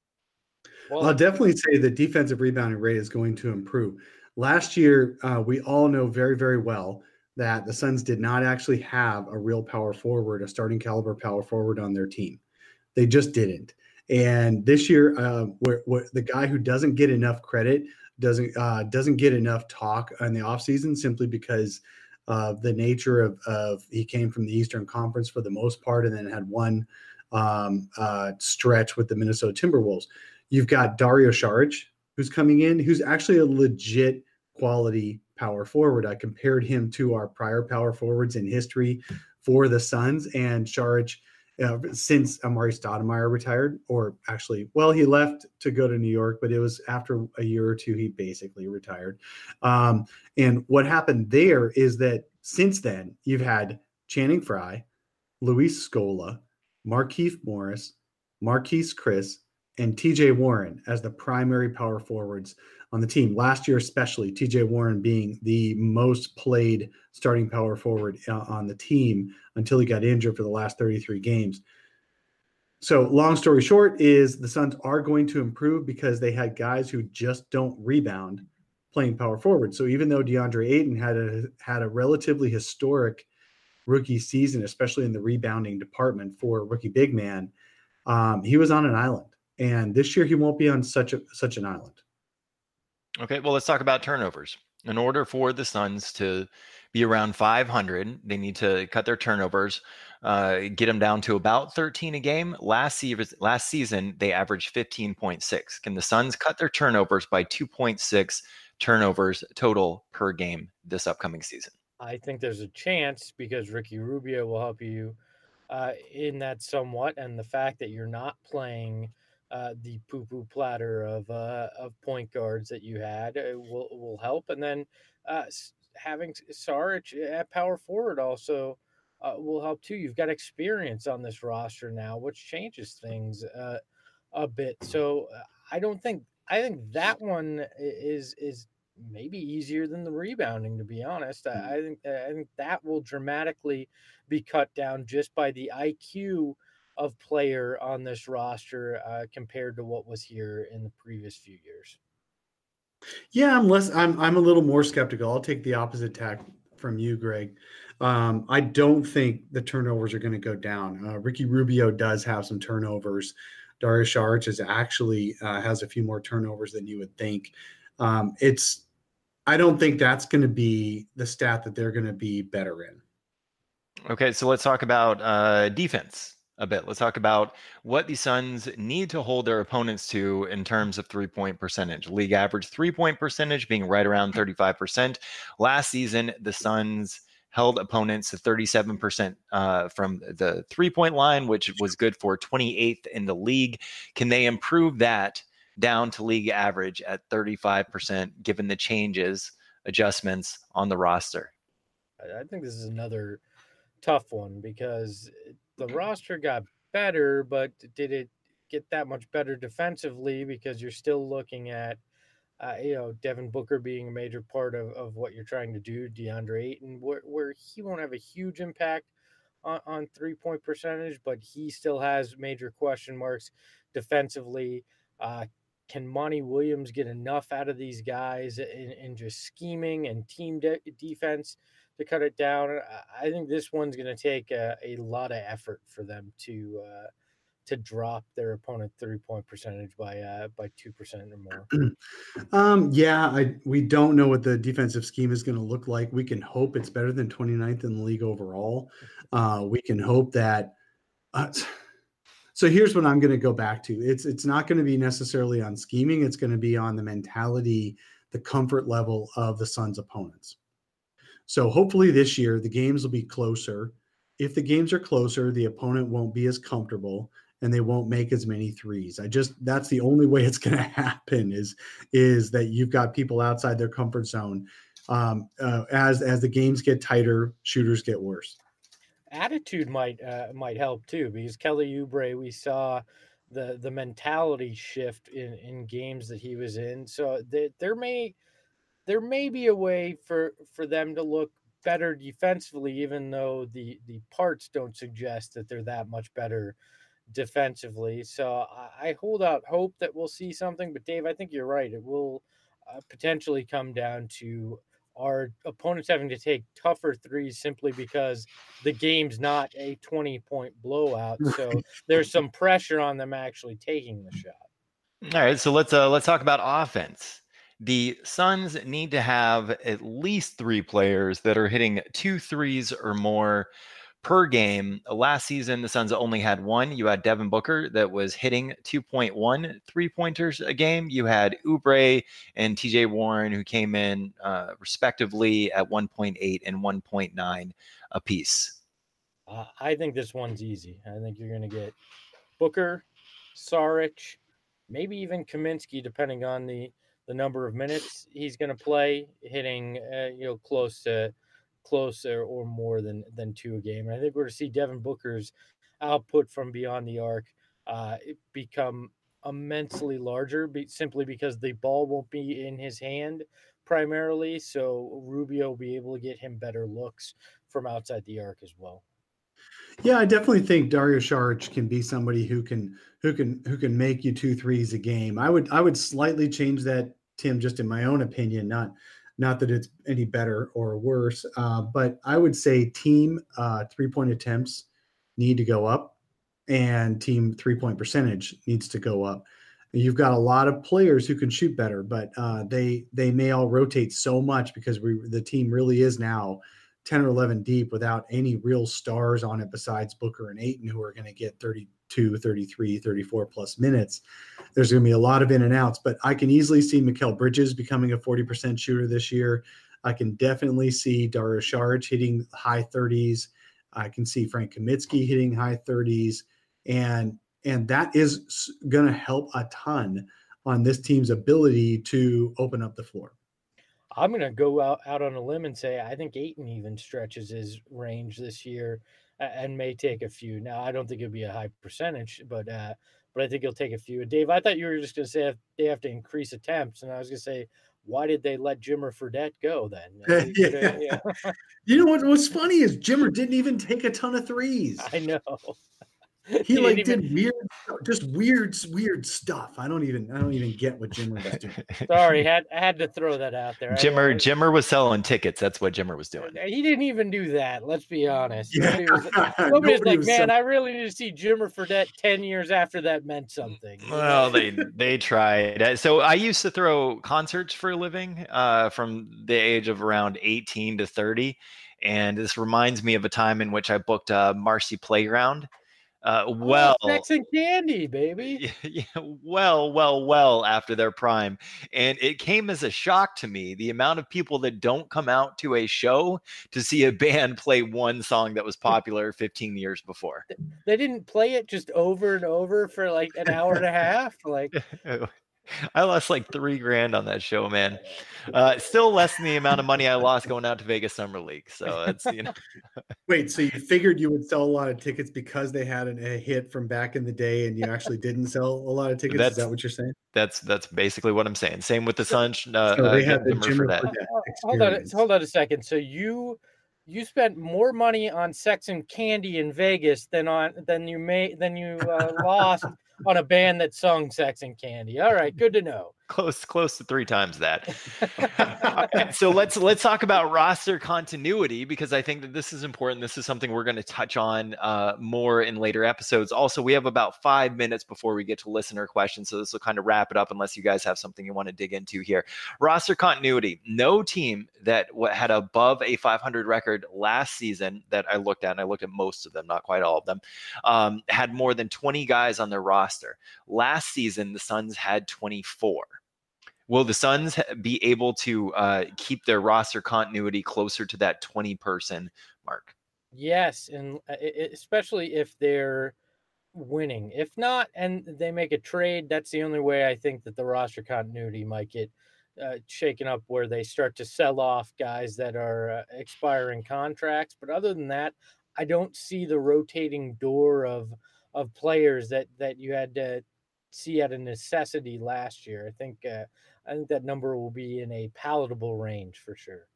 C: Well, I'll definitely say the defensive rebounding rate is going to improve. Last year, uh, we all know very, very well that the Suns did not actually have a real power forward, a starting caliber power forward on their team. They just didn't. And this year, uh, where, where the guy who doesn't get enough credit doesn't uh, doesn't get enough talk in the offseason simply because of the nature of, of he came from the Eastern Conference for the most part and then had one um, uh, stretch with the Minnesota Timberwolves. You've got Dario Saric, who's coming in, who's actually a legit quality power forward. I compared him to our prior power forwards in history for the Suns, and Saric, uh, since Amari Stoudemire retired, or actually, well, he left to go to New York, but it was after a year or two, he basically retired. Um, and what happened there is that since then, you've had Channing Frye, Luis Scola, Markieff Morris, Marquise Chris, and T J Warren as the primary power forwards on the team. Last year, especially, T J Warren being the most played starting power forward on the team until he got injured for the last thirty-three games. So long story short is the Suns are going to improve because they had guys who just don't rebound playing power forward. So even though DeAndre Ayton had a, had a relatively historic rookie season, especially in the rebounding department for a rookie big man, um, he was on an island. And this year he won't be on such a such an island.
B: Okay, well, let's talk about turnovers. In order for the Suns to be around five hundred, they need to cut their turnovers, uh, get them down to about thirteen a game. Last, se- last season, they averaged fifteen point six. Can the Suns cut their turnovers by two point six turnovers total per game this upcoming season?
E: I think there's a chance because Ricky Rubio will help you uh, in that somewhat. And the fact that you're not playing Uh, the poo-poo platter of uh, of point guards that you had uh, will will help, and then uh, having Saric at power forward also uh, will help too. You've got experience on this roster now, which changes things uh, a bit. So uh, I don't think I think that one is is maybe easier than the rebounding. To be honest, I, I think I think that will dramatically be cut down just by the I Q of player on this roster uh, compared to what was here in the previous few years.
C: Yeah, I'm less. I'm I'm a little more skeptical. I'll take the opposite tack from you, Greg. Um, I don't think the turnovers are going to go down. Uh, Ricky Rubio does have some turnovers. Dario Saric is actually uh, has a few more turnovers than you would think. Um, it's. I don't think that's going to be the stat that they're going to be better in.
B: Okay, so let's talk about uh, defense a bit. Let's talk about what the Suns need to hold their opponents to in terms of three-point percentage. League average three-point percentage being right around thirty-five percent. Last season, the Suns held opponents to thirty-seven percent uh, from the three-point line, which was good for twenty-eighth in the league. Can they improve that down to league average at thirty-five percent given the changes, adjustments on the roster?
E: I think this is another tough one because the roster got better, but did it get that much better defensively? Because you're still looking at, uh, you know, Devin Booker being a major part of, of what you're trying to do, DeAndre Ayton, where, where he won't have a huge impact on, on three-point percentage, but he still has major question marks defensively. Uh, can Monty Williams get enough out of these guys in, in just scheming and team de- defense to cut it down? I think this one's going to take a, a lot of effort for them to uh, to drop their opponent three-point percentage by uh, by two percent or more.
C: um, yeah, I we don't know what the defensive scheme is going to look like. We can hope it's better than twenty-ninth in the league overall. Uh, we can hope that uh, so here's what I'm going to go back to. It's it's not going to be necessarily on scheming. It's going to be on the mentality, the comfort level of the Suns' opponents. So hopefully this year the games will be closer. If the games are closer, the opponent won't be as comfortable and they won't make as many threes. I just that's the only way it's going to happen is is that you've got people outside their comfort zone. Um, uh, as as the games get tighter, shooters get worse.
E: Attitude might uh, might help too, because Kelly Oubre, we saw the the mentality shift in, in games that he was in. So th- there may there may be a way for, for them to look better defensively, even though the the parts don't suggest that they're that much better defensively. So I, I hold out hope that we'll see something. But Dave, I think you're right. It will uh, potentially come down to our opponents having to take tougher threes simply because the game's not a twenty-point blowout. So there's some pressure on them actually taking the shot.
B: All right, so let's uh, let's talk about offense. The Suns need to have at least three players that are hitting two threes or more per game. Last season, the Suns only had one. You had Devin Booker that was hitting two point one three-pointers a game. You had Oubre and T J Warren, who came in uh, respectively at one point eight and one point nine apiece.
E: Uh, I think this one's easy. I think you're going to get Booker, Saric, maybe even Kaminsky, depending on the, the number of minutes he's going to play, hitting uh, you know close to closer or more than than two a game. And I think we're to see Devin Booker's output from beyond the arc uh, become immensely larger, be, simply because the ball won't be in his hand primarily. So Rubio will be able to get him better looks from outside the arc as well.
C: Yeah, I definitely think Dario Saric can be somebody who can who can who can make you two threes a game. I would I would slightly change that, Tim, just in my own opinion, not not that it's any better or worse, uh, but I would say team uh, three-point attempts need to go up and team three-point percentage needs to go up. You've got a lot of players who can shoot better, but uh, they they may all rotate so much because we the team really is now ten or eleven deep without any real stars on it besides Booker and Ayton, who are going to get thirty-two, thirty-three, thirty-four plus minutes. There's going to be a lot of in and outs, but I can easily see Mikal Bridges becoming a forty percent shooter this year. I can definitely see Dario Saric hitting high thirties. I can see Frank Kaminsky hitting high thirties. And, and that is going to help a ton on this team's ability to open up the floor.
E: I'm going to go out, out on a limb and say I think Ayton even stretches his range this year and may take a few. Now, I don't think it'll be a high percentage, but uh, but I think he'll take a few. And Dave, I thought you were just going to say they have to increase attempts, and I was going to say, why did they let Jimmer Fredette go then?
C: yeah. yeah. You know what? What's funny is Jimmer didn't even take a ton of threes.
E: I know.
C: He, he like did even... weird, just weird, weird stuff. I don't even, I don't even get what Jimmer was doing.
E: Sorry, had I had to throw that out there.
B: Jimmer,
E: I, I,
B: Jimmer was selling tickets. That's what Jimmer was doing.
E: He didn't even do that. Let's be honest.
C: Yeah.
E: Nobody was, nobody was like,
C: was
E: man,
C: so...
E: I really need to see Jimmer Fredette ten years after that meant something.
B: Well, they they tried. So I used to throw concerts for a living uh, from the age of around eighteen to thirty, and this reminds me of a time in which I booked a Marcy Playground. Uh, well,
E: oh, Sex and Candy, baby.
B: Yeah, well, well, well after their prime. And it came as a shock to me, the amount of people that don't come out to a show to see a band play one song that was popular fifteen years before.
E: They didn't play it just over and over for like an hour and a half. Like
B: I lost like three grand on that show, man. Uh, still less than the amount of money I lost going out to Vegas Summer League. So it's, you know.
C: Wait, so you figured you would sell a lot of tickets because they had an, a hit from back in the day, and you actually didn't sell a lot of tickets?
B: That's,
C: Is that what you're saying?
B: That's that's basically what I'm saying. Same with the Suns. Uh,
C: so they
B: uh,
C: had the Jimmer
B: for that.
C: Fredette
E: hold on, hold on a second. So you You spent more money on sex and candy in Vegas than on than you made than you uh, lost on a band that sung Sex and Candy. All right, good to know.
B: Close, close to three times that. So let's let's talk about roster continuity, because I think that this is important. This is something we're going to touch on uh, more in later episodes. Also, we have about five minutes before we get to listener questions, so this will kind of wrap it up. Unless you guys have something you want to dig into here. Roster continuity. No team that had above a five hundred record last season that I looked at, and I looked at most of them, not quite all of them, um, had more than twenty guys on their roster. Last season, the Suns had twenty-four. Will the Suns be able to uh, keep their roster continuity closer to that twenty person mark?
E: Yes, and especially if they're winning. If not, and they make a trade, that's the only way I think that the roster continuity might get uh, shaken up, where they start to sell off guys that are uh, expiring contracts. But other than that, I don't see the rotating door of of players that that you had to see at a necessity last year. I think uh, I think that number will be in a palatable range for sure.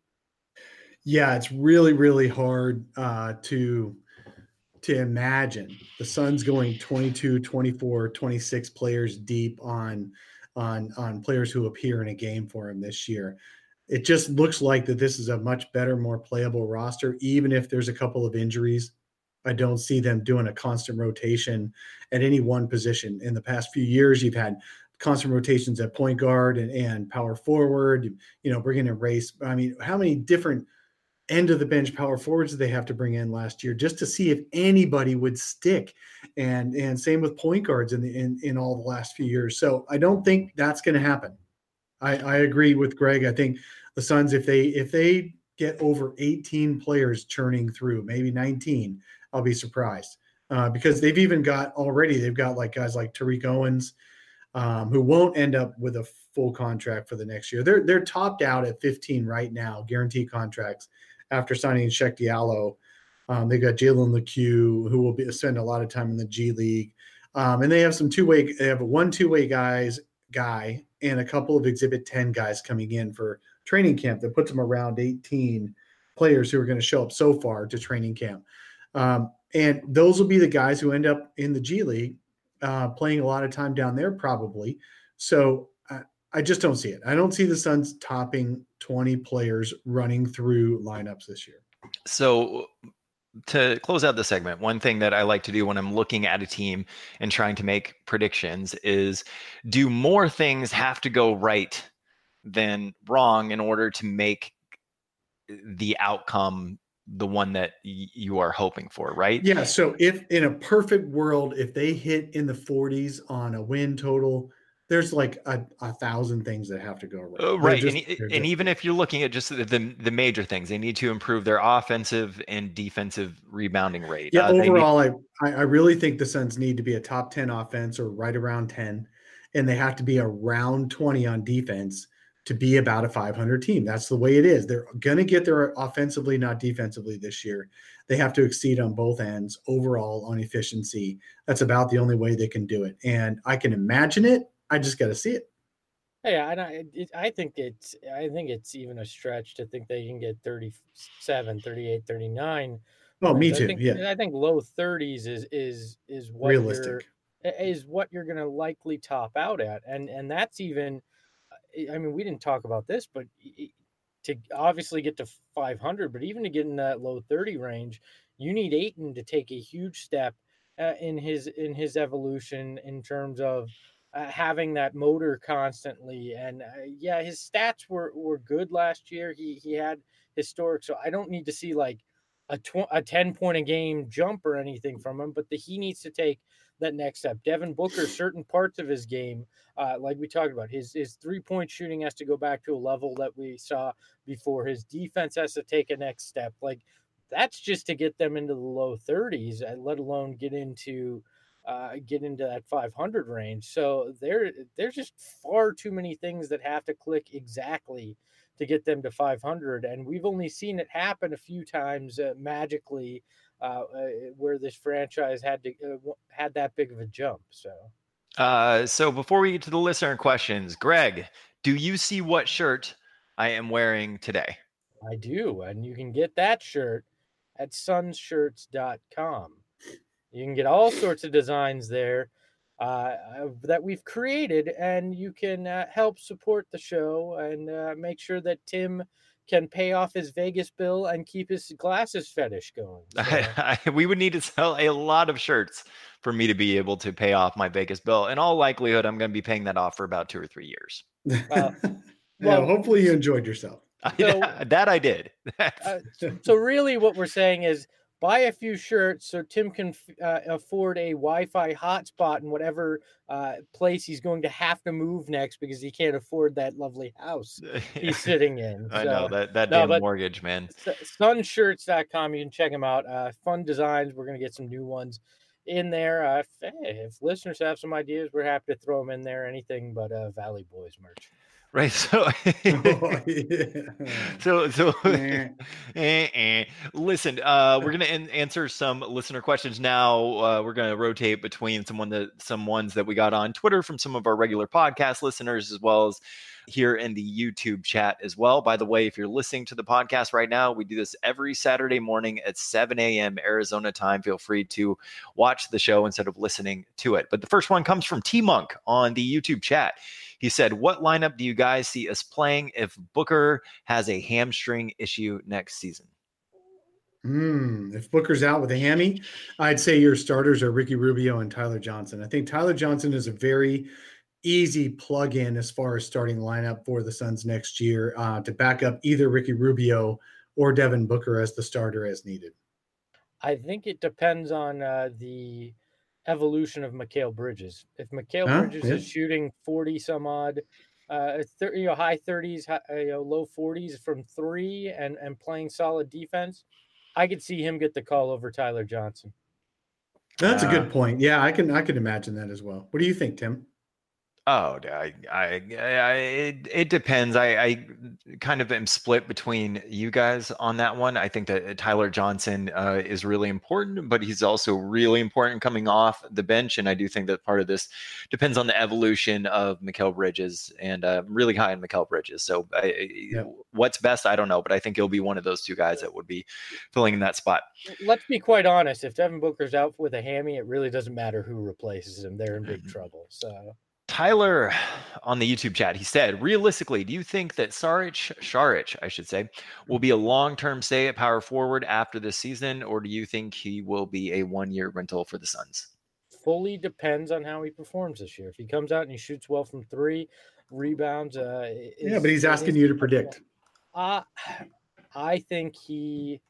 C: Yeah, it's really, really hard uh, to to imagine the Suns going twenty-two, twenty-four, twenty-six players deep on on on players who appear in a game for him this year. It just looks like that this is a much better, more playable roster, even if there's a couple of injuries. I don't see them doing a constant rotation at any one position. In the past few years, you've had constant rotations at point guard and, and power forward, you know, bringing in race. I mean, how many different end of the bench power forwards did they have to bring in last year just to see if anybody would stick? And, and same with point guards in the, in, in all the last few years. So I don't think that's going to happen. I, I agree with Greg. I think the Suns, if they, if they get over eighteen players churning through, maybe nineteen, I'll be surprised uh, because they've even got already, they've got like guys like Tariq Owens, um, who won't end up with a full contract for the next year. They're they're topped out at fifteen right now, guaranteed contracts after signing Sheck Diallo. Um, they got Jalen LeCue, who will be spend a lot of time in the G League, um, and they have some two way. They have a one two way guys guy and a couple of Exhibit ten guys coming in for training camp that puts them around eighteen players who are going to show up so far to training camp. Um, and those will be the guys who end up in the G League, uh, playing a lot of time down there probably. So I, I just don't see it. I don't see the Suns topping twenty players running through lineups this year.
B: So to close out the segment, one thing that I like to do when I'm looking at a team and trying to make predictions is, do more things have to go right than wrong in order to make the outcome the one that y- you are hoping for, right?
C: Yeah. So if in a perfect world, if they hit in the forties on a win total, there's like a, a thousand things that have to go right.
B: Uh, right.
C: Just,
B: and and even if you're looking at just the, the the major things, they need to improve their offensive and defensive rebounding rate.
C: Yeah.
B: Uh,
C: overall,
B: need-
C: I, I really think the Suns need to be a top ten offense or right around ten, and they have to be around twenty on defense to be about a five hundred team. That's the way it is. They're going to get there offensively, not defensively this year. They have to exceed on both ends overall on efficiency. That's about the only way they can do it. And I can imagine it. I just got to see it.
E: Yeah, and I, it, I think it's, I think it's even a stretch to think they can get thirty-seven, thirty-eight, thirty-nine.
C: Oh, me
E: I
C: too.
E: think,
C: Yeah.
E: I think low thirties is, is, is what
C: Realistic.
E: You're, is what you're going to likely top out at. And, and that's even, I mean, we didn't talk about this, but to obviously get to five hundred, but even to get in that low thirty range, you need Ayton to take a huge step uh, in his in his evolution in terms of uh, having that motor constantly. And uh, yeah, his stats were were good last year. He he had historic, so I don't need to see like a tw- a ten point a game jump or anything from him, but the, he needs to take that next step. Devin Booker, certain parts of his game, uh, like we talked about, his his three-point shooting has to go back to a level that we saw before. His defense has to take a next step. Like, that's just to get them into the low thirties, let alone get into uh, get into that five hundred range. So there, there's just far too many things that have to click exactly to get them to five hundred, and we've only seen it happen a few times uh, magically. Uh, uh, where this franchise had to uh, had that big of a jump. So,
B: uh, so before we get to the listener questions, Greg, do you see what shirt I am wearing today?
E: I do, and you can get that shirt at suns shirts dot com. You can get all sorts of designs there uh, that we've created, and you can uh, help support the show and uh, make sure that Tim can pay off his Vegas bill and keep his glasses fetish going. So.
B: I, I, we would need to sell a lot of shirts for me to be able to pay off my Vegas bill. In all likelihood, I'm going to be paying that off for about two or three years.
E: Uh,
C: well,
E: well,
C: hopefully you enjoyed yourself.
B: So, that I did.
E: uh, so really what we're saying is buy a few shirts so Tim can uh, afford a Wi-Fi hotspot in whatever uh, place he's going to have to move next because he can't afford that lovely house he's sitting in.
B: I
E: so,
B: know, that, that
E: no,
B: damn mortgage, man.
E: suns shirts dot com. You can check them out. Uh, fun designs. We're going to get some new ones in there. Uh, if, if listeners have some ideas, we're happy to throw them in there. Anything but uh, Valley Boys merch.
B: Right. So,
C: oh, yeah.
B: so, so, eh, eh. listen, uh, we're going to an- answer some listener questions now. Uh, we're going to rotate between someone that, some ones that we got on Twitter from some of our regular podcast listeners, as well as here in the YouTube chat as well. By the way, if you're listening to the podcast right now, we do this every Saturday morning at seven a.m. Arizona time. Feel free to watch the show instead of listening to it. But the first one comes from T Monk on the YouTube chat. He said, what lineup do you guys see us playing if Booker has a hamstring issue next season?
C: Mm, if Booker's out with a hammy, I'd say your starters are Ricky Rubio and Tyler Johnson. I think Tyler Johnson is a very easy plug-in as far as starting lineup for the Suns next year uh, to back up either Ricky Rubio or Devin Booker as the starter as needed.
E: I think it depends on uh, the evolution of Mikal Bridges. If Mikal
C: huh?
E: Bridges
C: yeah.
E: is shooting forty some odd, uh, thirty, you know, high thirties, high, you know, low forties from three, and and playing solid defense, I could see him get the call over Tyler Johnson.
C: That's
B: uh,
C: a good point. Yeah, I can I can imagine that as well. What do you think, Tim?
B: Oh, I, I, I it, it depends. I, I kind of am split between you guys on that one. I think that Tyler Johnson uh, is really important, but he's also really important coming off the bench. And I do think that part of this depends on the evolution of Mikal Bridges, and uh, I'm really high on Mikal Bridges. So I,
C: Yeah.
B: what's best, I don't know, but I think he'll be one of those two guys that would be filling in that spot.
E: Let's be quite honest. If Devin Booker's out with a hammy, it really doesn't matter who replaces him. They're in big trouble. So.
B: Tyler on the YouTube chat, he said, realistically, do you think that Saric, Saric, I should say, will be a long-term stay at power forward after this season, or do you think he will be a one-year rental for the Suns?
E: Fully depends on how he performs this year. If he comes out and he shoots well from three, rebounds. Uh, is,
C: yeah, but he's asking you to predict.
E: Uh, I think he...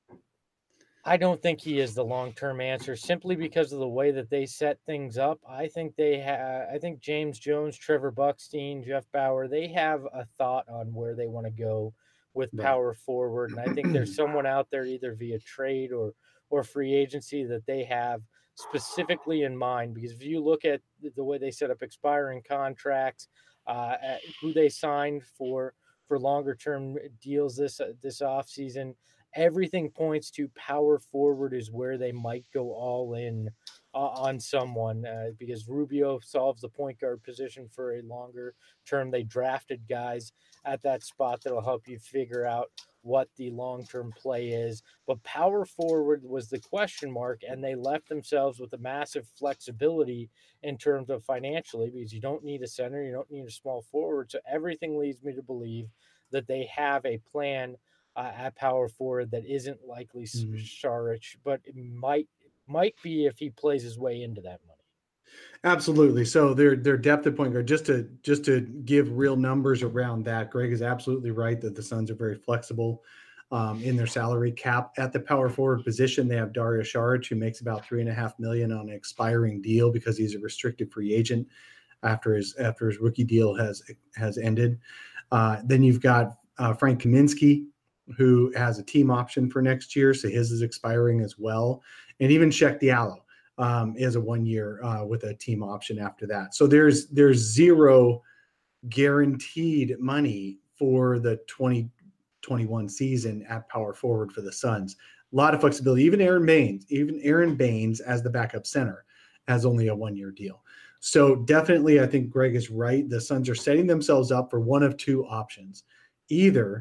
E: I don't think he is the long-term answer simply because of the way that they set things up. I think they have, I think James Jones, Trevor Buckstein, Jeff Bauer, they have a thought on where they want to go with power forward. And I think there's someone out there either via trade or, or free agency that they have specifically in mind, because if you look at the way they set up expiring contracts, uh, who they signed for, for longer term deals this, uh, this off season, everything points to power forward is where they might go all in uh, on someone uh, because Rubio solves the point guard position for a longer term. They drafted guys at that spot that'll help you figure out what the long-term play is. But power forward was the question mark, and they left themselves with a massive flexibility in terms of financially, because you don't need a center, you don't need a small forward. So everything leads me to believe that they have a plan Uh, at power forward that isn't likely mm-hmm. Saric, but it might might be if he plays his way into that money.
C: Absolutely. So their their depth at point guard, just to just to give real numbers around that, Greg is absolutely right that the Suns are very flexible um, in their salary cap at the power forward position. They have Dario Saric, who makes about three and a half million on an expiring deal because he's a restricted free agent after his after his rookie deal has has ended. Uh, then you've got uh, Frank Kaminsky, who has a team option for next year, so his is expiring as well. And even Cheick Diallo um, is a one-year uh, with a team option after that. So there's there's zero guaranteed money for the twenty twenty-one season at power forward for the Suns. A lot of flexibility. Even Aaron Baines, even Aaron Baines as the backup center has only a one-year deal. So definitely, I think Greg is right. The Suns are setting themselves up for one of two options. Either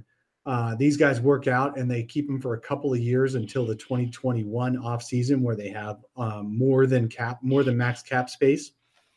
C: Uh, these guys work out and they keep them for a couple of years until the twenty twenty-one off season where they have um, more than cap, more than max cap space,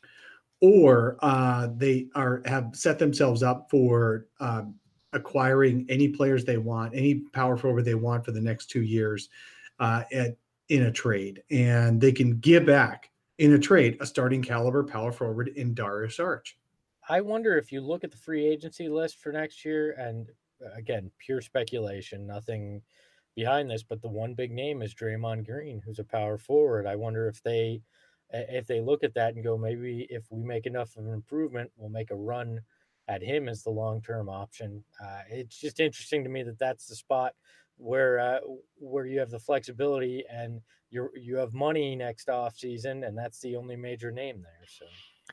C: or uh, they are have set themselves up for uh, acquiring any players they want, any power forward they want for the next two years uh, at in a trade, and they can give back in a trade a starting caliber power forward in Darius Arch.
E: I wonder if you look at the free agency list for next year, and again, pure speculation, nothing behind this, but the one big name is Draymond Green, who's a power forward. I wonder if they if they look at that and go, maybe if we make enough of an improvement, we'll make a run at him as the long-term option. Uh, it's just interesting to me that that's the spot where uh, where you have the flexibility and you you have money next off season, and that's the only major name there. So.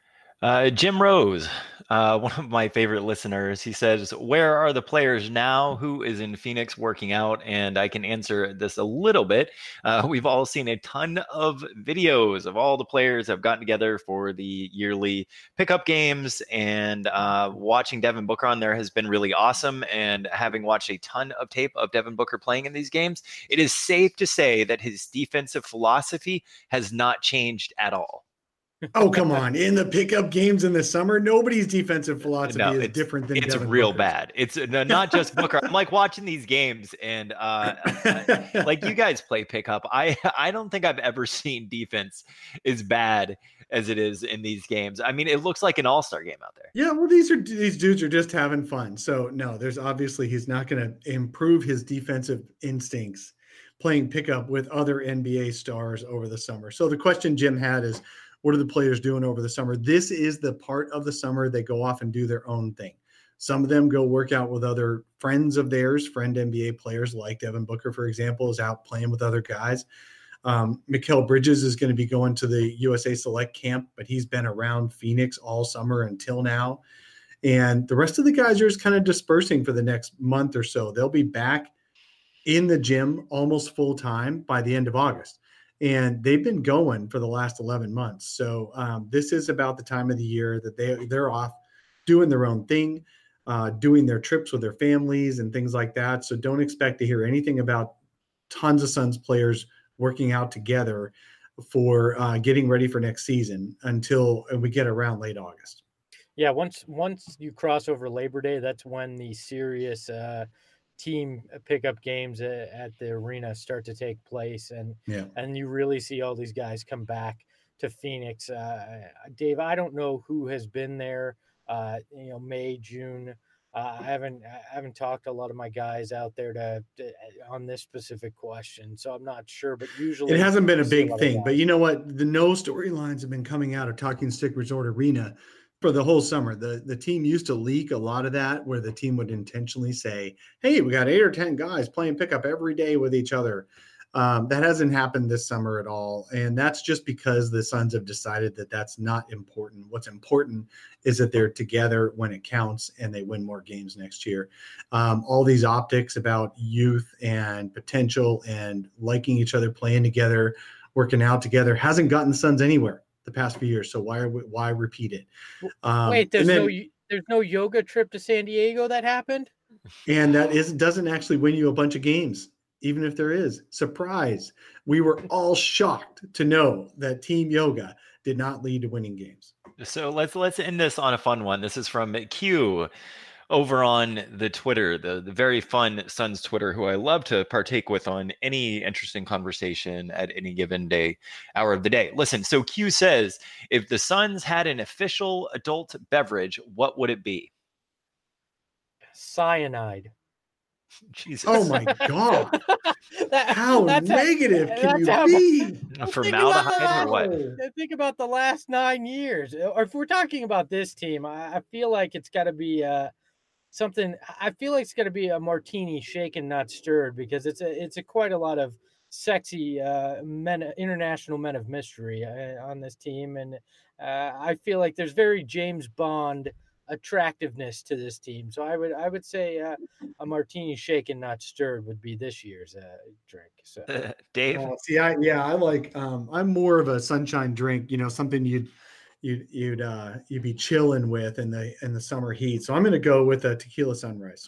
B: Uh, Jim Rose, uh, one of my favorite listeners, he says, where are the players now? Who is in Phoenix working out? And I can answer this a little bit. Uh, we've all seen a ton of videos of all the players that have gotten together for the yearly pickup games, and uh, watching Devin Booker on there has been really awesome. And having watched a ton of tape of Devin Booker playing in these games, it is safe to say that his defensive philosophy has not changed at all.
C: Oh, come on. In the pickup games in the summer, nobody's defensive philosophy
B: no,
C: is different than
B: it's
C: Devin
B: real
C: Booker's.
B: bad. It's not just Booker. I'm like watching these games and uh, like you guys play pickup. I, I don't think I've ever seen defense as bad as it is in these games. I mean, it looks like an all-star game out there.
C: Yeah, well, these are these dudes are just having fun. So no, there's obviously he's not going to improve his defensive instincts playing pickup with other N B A stars over the summer. So the question Jim had is, what are the players doing over the summer? This is the part of the summer they go off and do their own thing. Some of them go work out with other friends of theirs, friend N B A players like Devin Booker, for example, is out playing with other guys. Um, Mikal Bridges is going to be going to the U S A Select camp, but he's been around Phoenix all summer until now. And the rest of the guys are just kind of dispersing for the next month or so. They'll be back in the gym almost full time by the end of August. And they've been going for the last eleven months. So um, this is about the time of the year that they, they're off doing their own thing, uh, doing their trips with their families and things like that. So don't expect to hear anything about tons of Suns players working out together for uh, getting ready for next season until we get around late August.
E: Yeah, once once you cross over Labor Day, that's when the serious uh, team pickup games at the arena start to take place, and
C: yeah.
E: and you really see all these guys come back to Phoenix. Uh, Dave, I don't know who has been there, uh, you know, May, June. Uh, I haven't I haven't talked to a lot of my guys out there to, to on this specific question, so I'm not sure. But usually
C: it hasn't been a big thing. But you know what? The no storylines have been coming out of Talking Stick Resort Arena for the whole summer. The the team used to leak a lot of that, where the team would intentionally say, hey, we got eight or ten guys playing pickup every day with each other. Um, that hasn't happened this summer at all. And that's just because the Suns have decided that that's not important. What's important is that they're together when it counts and they win more games next year. Um, all these optics about youth and potential and liking each other, playing together, working out together hasn't gotten the Suns anywhere the past few years. So why are we, why repeat it?
E: Um, Wait, there's then, no there's no yoga trip to San Diego that happened?
C: And that is doesn't actually win you a bunch of games. Even if there is surprise, we were all shocked to know that team yoga did not lead to winning games.
B: So let's let's end this on a fun one. This is from Q over on the Twitter, the, the very fun Suns Twitter, who I love to partake with on any interesting conversation at any given day, hour of the day. Listen, so Q says, if the Suns had an official adult beverage, what would it be?
E: Cyanide.
B: Jesus.
C: Oh my God.
E: that,
C: how negative how, can you how, be?
B: Formaldehyde or what?
E: Think about the last nine years. Or if we're talking about this team, I, I feel like it's got to be uh, something. I feel like it's got to be a martini shaken, not stirred, because it's a it's a quite a lot of sexy uh, men, international men of mystery uh, on this team, and uh, I feel like there's very James Bond attractiveness to this team. So I would I would say uh, a martini shaken, not stirred would be this year's uh, drink. So
B: uh, Dave,
C: uh, see, I yeah, I like um, I'm more of a sunshine drink. You know, something you'd you'd you'd uh, you'd be chilling with in the in the summer heat. So I'm going to go with a tequila sunrise.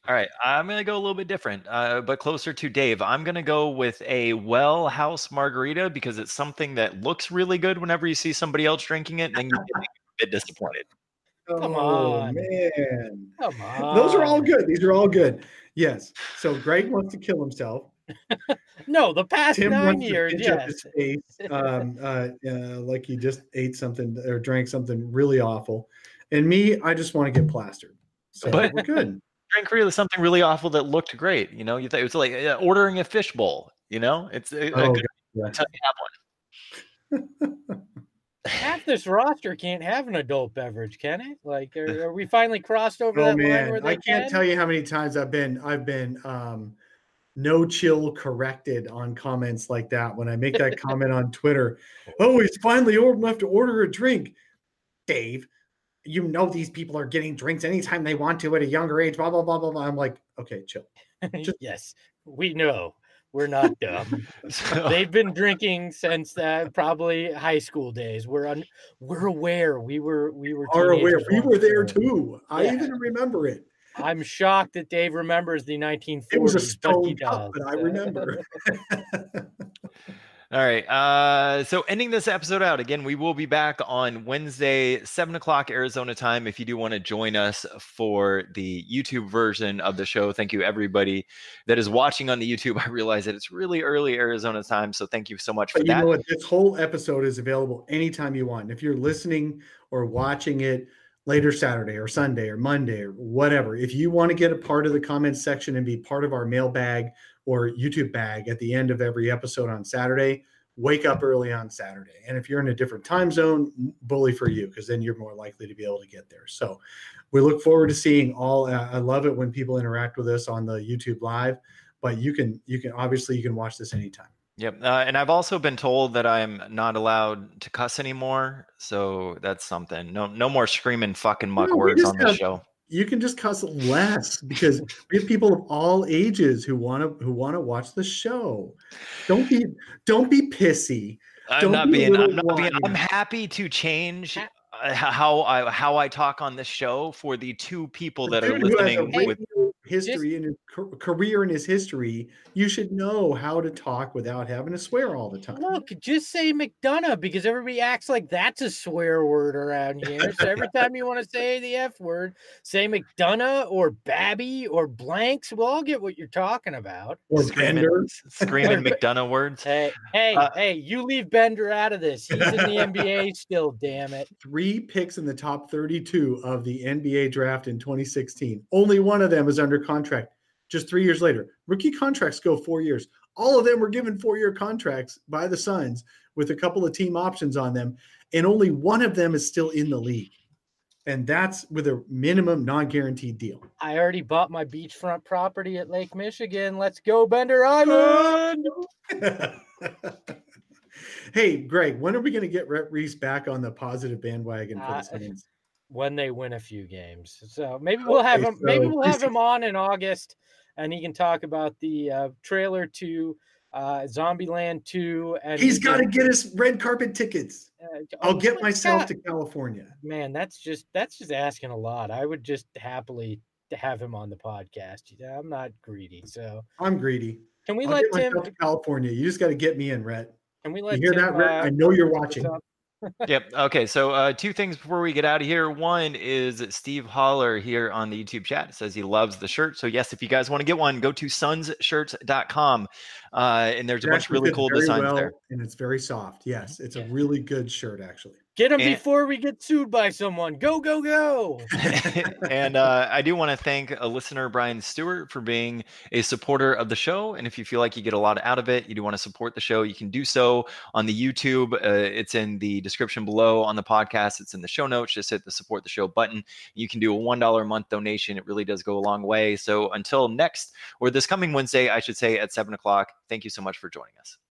B: All right, I'm going to go a little bit different, uh, but closer to Dave. I'm going to go with a Well House margarita because it's something that looks really good whenever you see somebody else drinking it, and then you get a bit disappointed.
E: Come
C: Oh,
E: on.
C: man.
E: Come on.
C: Those are all good. These are all good. Yes. So Greg wants to kill himself.
E: No, the past
C: Tim
E: nine
C: wants
E: years,
C: to pinch up
E: yes.
C: his face, um, uh, uh, like he just ate something or drank something really awful. And me, I just want to get plastered. So
B: But-
C: we're good.
B: Drink really something really awful that looked great. You know, you th- it was like uh, ordering a fish bowl. You know, it's a, a
C: Oh,
B: good
C: yeah.
B: until you have one.
E: Half this roster can't have an adult beverage, can it? Like, are, are we finally crossed over
C: Oh
E: that line
C: man,
E: where they
C: I can't
E: can?
C: tell you how many times I've been I've been um, no chill corrected on comments like that when I make that comment on Twitter. Oh, he's finally old enough to order a drink. Dave, you know these people are getting drinks anytime they want to at a younger age. Blah blah blah blah blah. I'm like, okay, chill. Just-
E: Yes, we know. We're not dumb.
B: So-
E: They've been drinking since uh, probably high school days. We're un- we're aware. We were we were
C: Are aware
E: teenagers
C: we
E: once,
C: were there
E: so
C: too. I
E: Yeah.
C: even remember it.
E: I'm shocked that Dave remembers the nineteen
C: It was a
E: forties, but he
C: stone cup,
E: does.
C: but I remember.
B: All right. Uh, so ending this episode out again, we will be back on Wednesday, seven o'clock Arizona time. If you do want to join us for the YouTube version of the show, thank you everybody that is watching on the YouTube. I realize that it's really early Arizona time, so thank you so much for
C: But you
B: that.
C: know what? This whole episode is available anytime you want. If you're listening or watching it later Saturday or Sunday or Monday or whatever, if you want to get a part of the comments section and be part of our mailbag or YouTube bag at the end of every episode on Saturday, wake up early on Saturday. And if you're in a different time zone, bully for you, because then you're more likely to be able to get there. So we look forward to seeing all. Uh, I love it when people interact with us on the YouTube live, but you can, you can obviously you can watch this anytime.
B: Yep. Uh, and I've also been told that I'm not allowed to cuss anymore. So that's something. No, no more screaming fucking muck
C: No, we
B: words
C: just
B: on this
C: have-
B: show.
C: You can just cuss less because we have people of all ages who want to who want to watch the show. Don't be don't be pissy.
B: I'm
C: Don't
B: not
C: be a
B: being. I'm
C: little
B: not being.
C: whiny.
B: I'm happy to change uh, how I how I talk on this show for the two people that
C: The
B: are
C: dude who has a
B: listening. With
C: radio history in his ca- career in his history, you should know how to talk without having to swear all the time.
E: Look, just say McDonough because everybody acts like that's a swear word around here. So every time you want to say the F word, say McDonough or Babby or blanks. We'll all get what you're talking about.
C: Or
B: screaming,
C: Bender.
B: screaming McDonough words.
E: Hey, hey,
B: Uh,
E: hey, you leave Bender out of this. He's in the N B A still, damn it.
C: Three picks in the top thirty-two of the N B A draft in twenty sixteen. Only one of them is under contract just three years later. Rookie contracts go four years. All of them were given four-year contracts by the Suns with a couple of team options on them, and only one of them is still in the league. And that's with a minimum non-guaranteed deal.
E: I already bought my beachfront property at Lake Michigan. Let's go, Bender Island.
C: Hey, Greg, when are we going to get Rhett Reese back on the positive bandwagon for
E: Uh,
C: the Suns?
E: When they win a few games. So maybe we'll have
C: Okay,
E: him. Maybe
C: so
E: we'll have
C: this-
E: him on in August, and he can talk about the uh, trailer to uh, Zombieland two. And
C: He's
E: he
C: got to
E: can,
C: get us red carpet tickets.
E: uh,
C: I'll
E: oh,
C: get myself
E: God,
C: to California.
E: Man, that's just that's just asking a lot. I would just happily have him on the podcast. Yeah, I'm not greedy, so
C: I'm greedy.
E: can we
C: I'll
E: let
C: get
E: Tim?
C: myself to California. You just got to get me in, Rhett.
E: Can we
C: You
E: let
C: hear
E: Tim,
C: that, Rhett?
E: uh,
C: I know you're
E: wrap
C: watching.
E: this up?
B: Yep. Okay. So uh, two things before we get out of here. One is Steve Holler here on the YouTube chat says he loves the shirt. So yes, if you guys want to get one, go to suns shirts dot com. Uh, and there's a
C: It
B: bunch of
C: actually
B: really
C: fits
B: cool
C: very
B: designs
C: well,
B: there.
C: and it's very soft. Yes, it's a
E: Yeah.
C: really good shirt, actually.
E: Get him
B: And-
E: before we get sued by someone. Go, go, go.
B: and uh, I do want to thank a listener, Brian Stewart, for being a supporter of the show. And if you feel like you get a lot out of it, you do want to support the show, you can do so on the YouTube. Uh, it's in the description below on the podcast. It's in the show notes. Just hit the support the show button. You can do a one dollar a month donation. It really does go a long way. So until next, or this coming Wednesday, I should say at seven o'clock, thank you so much for joining us.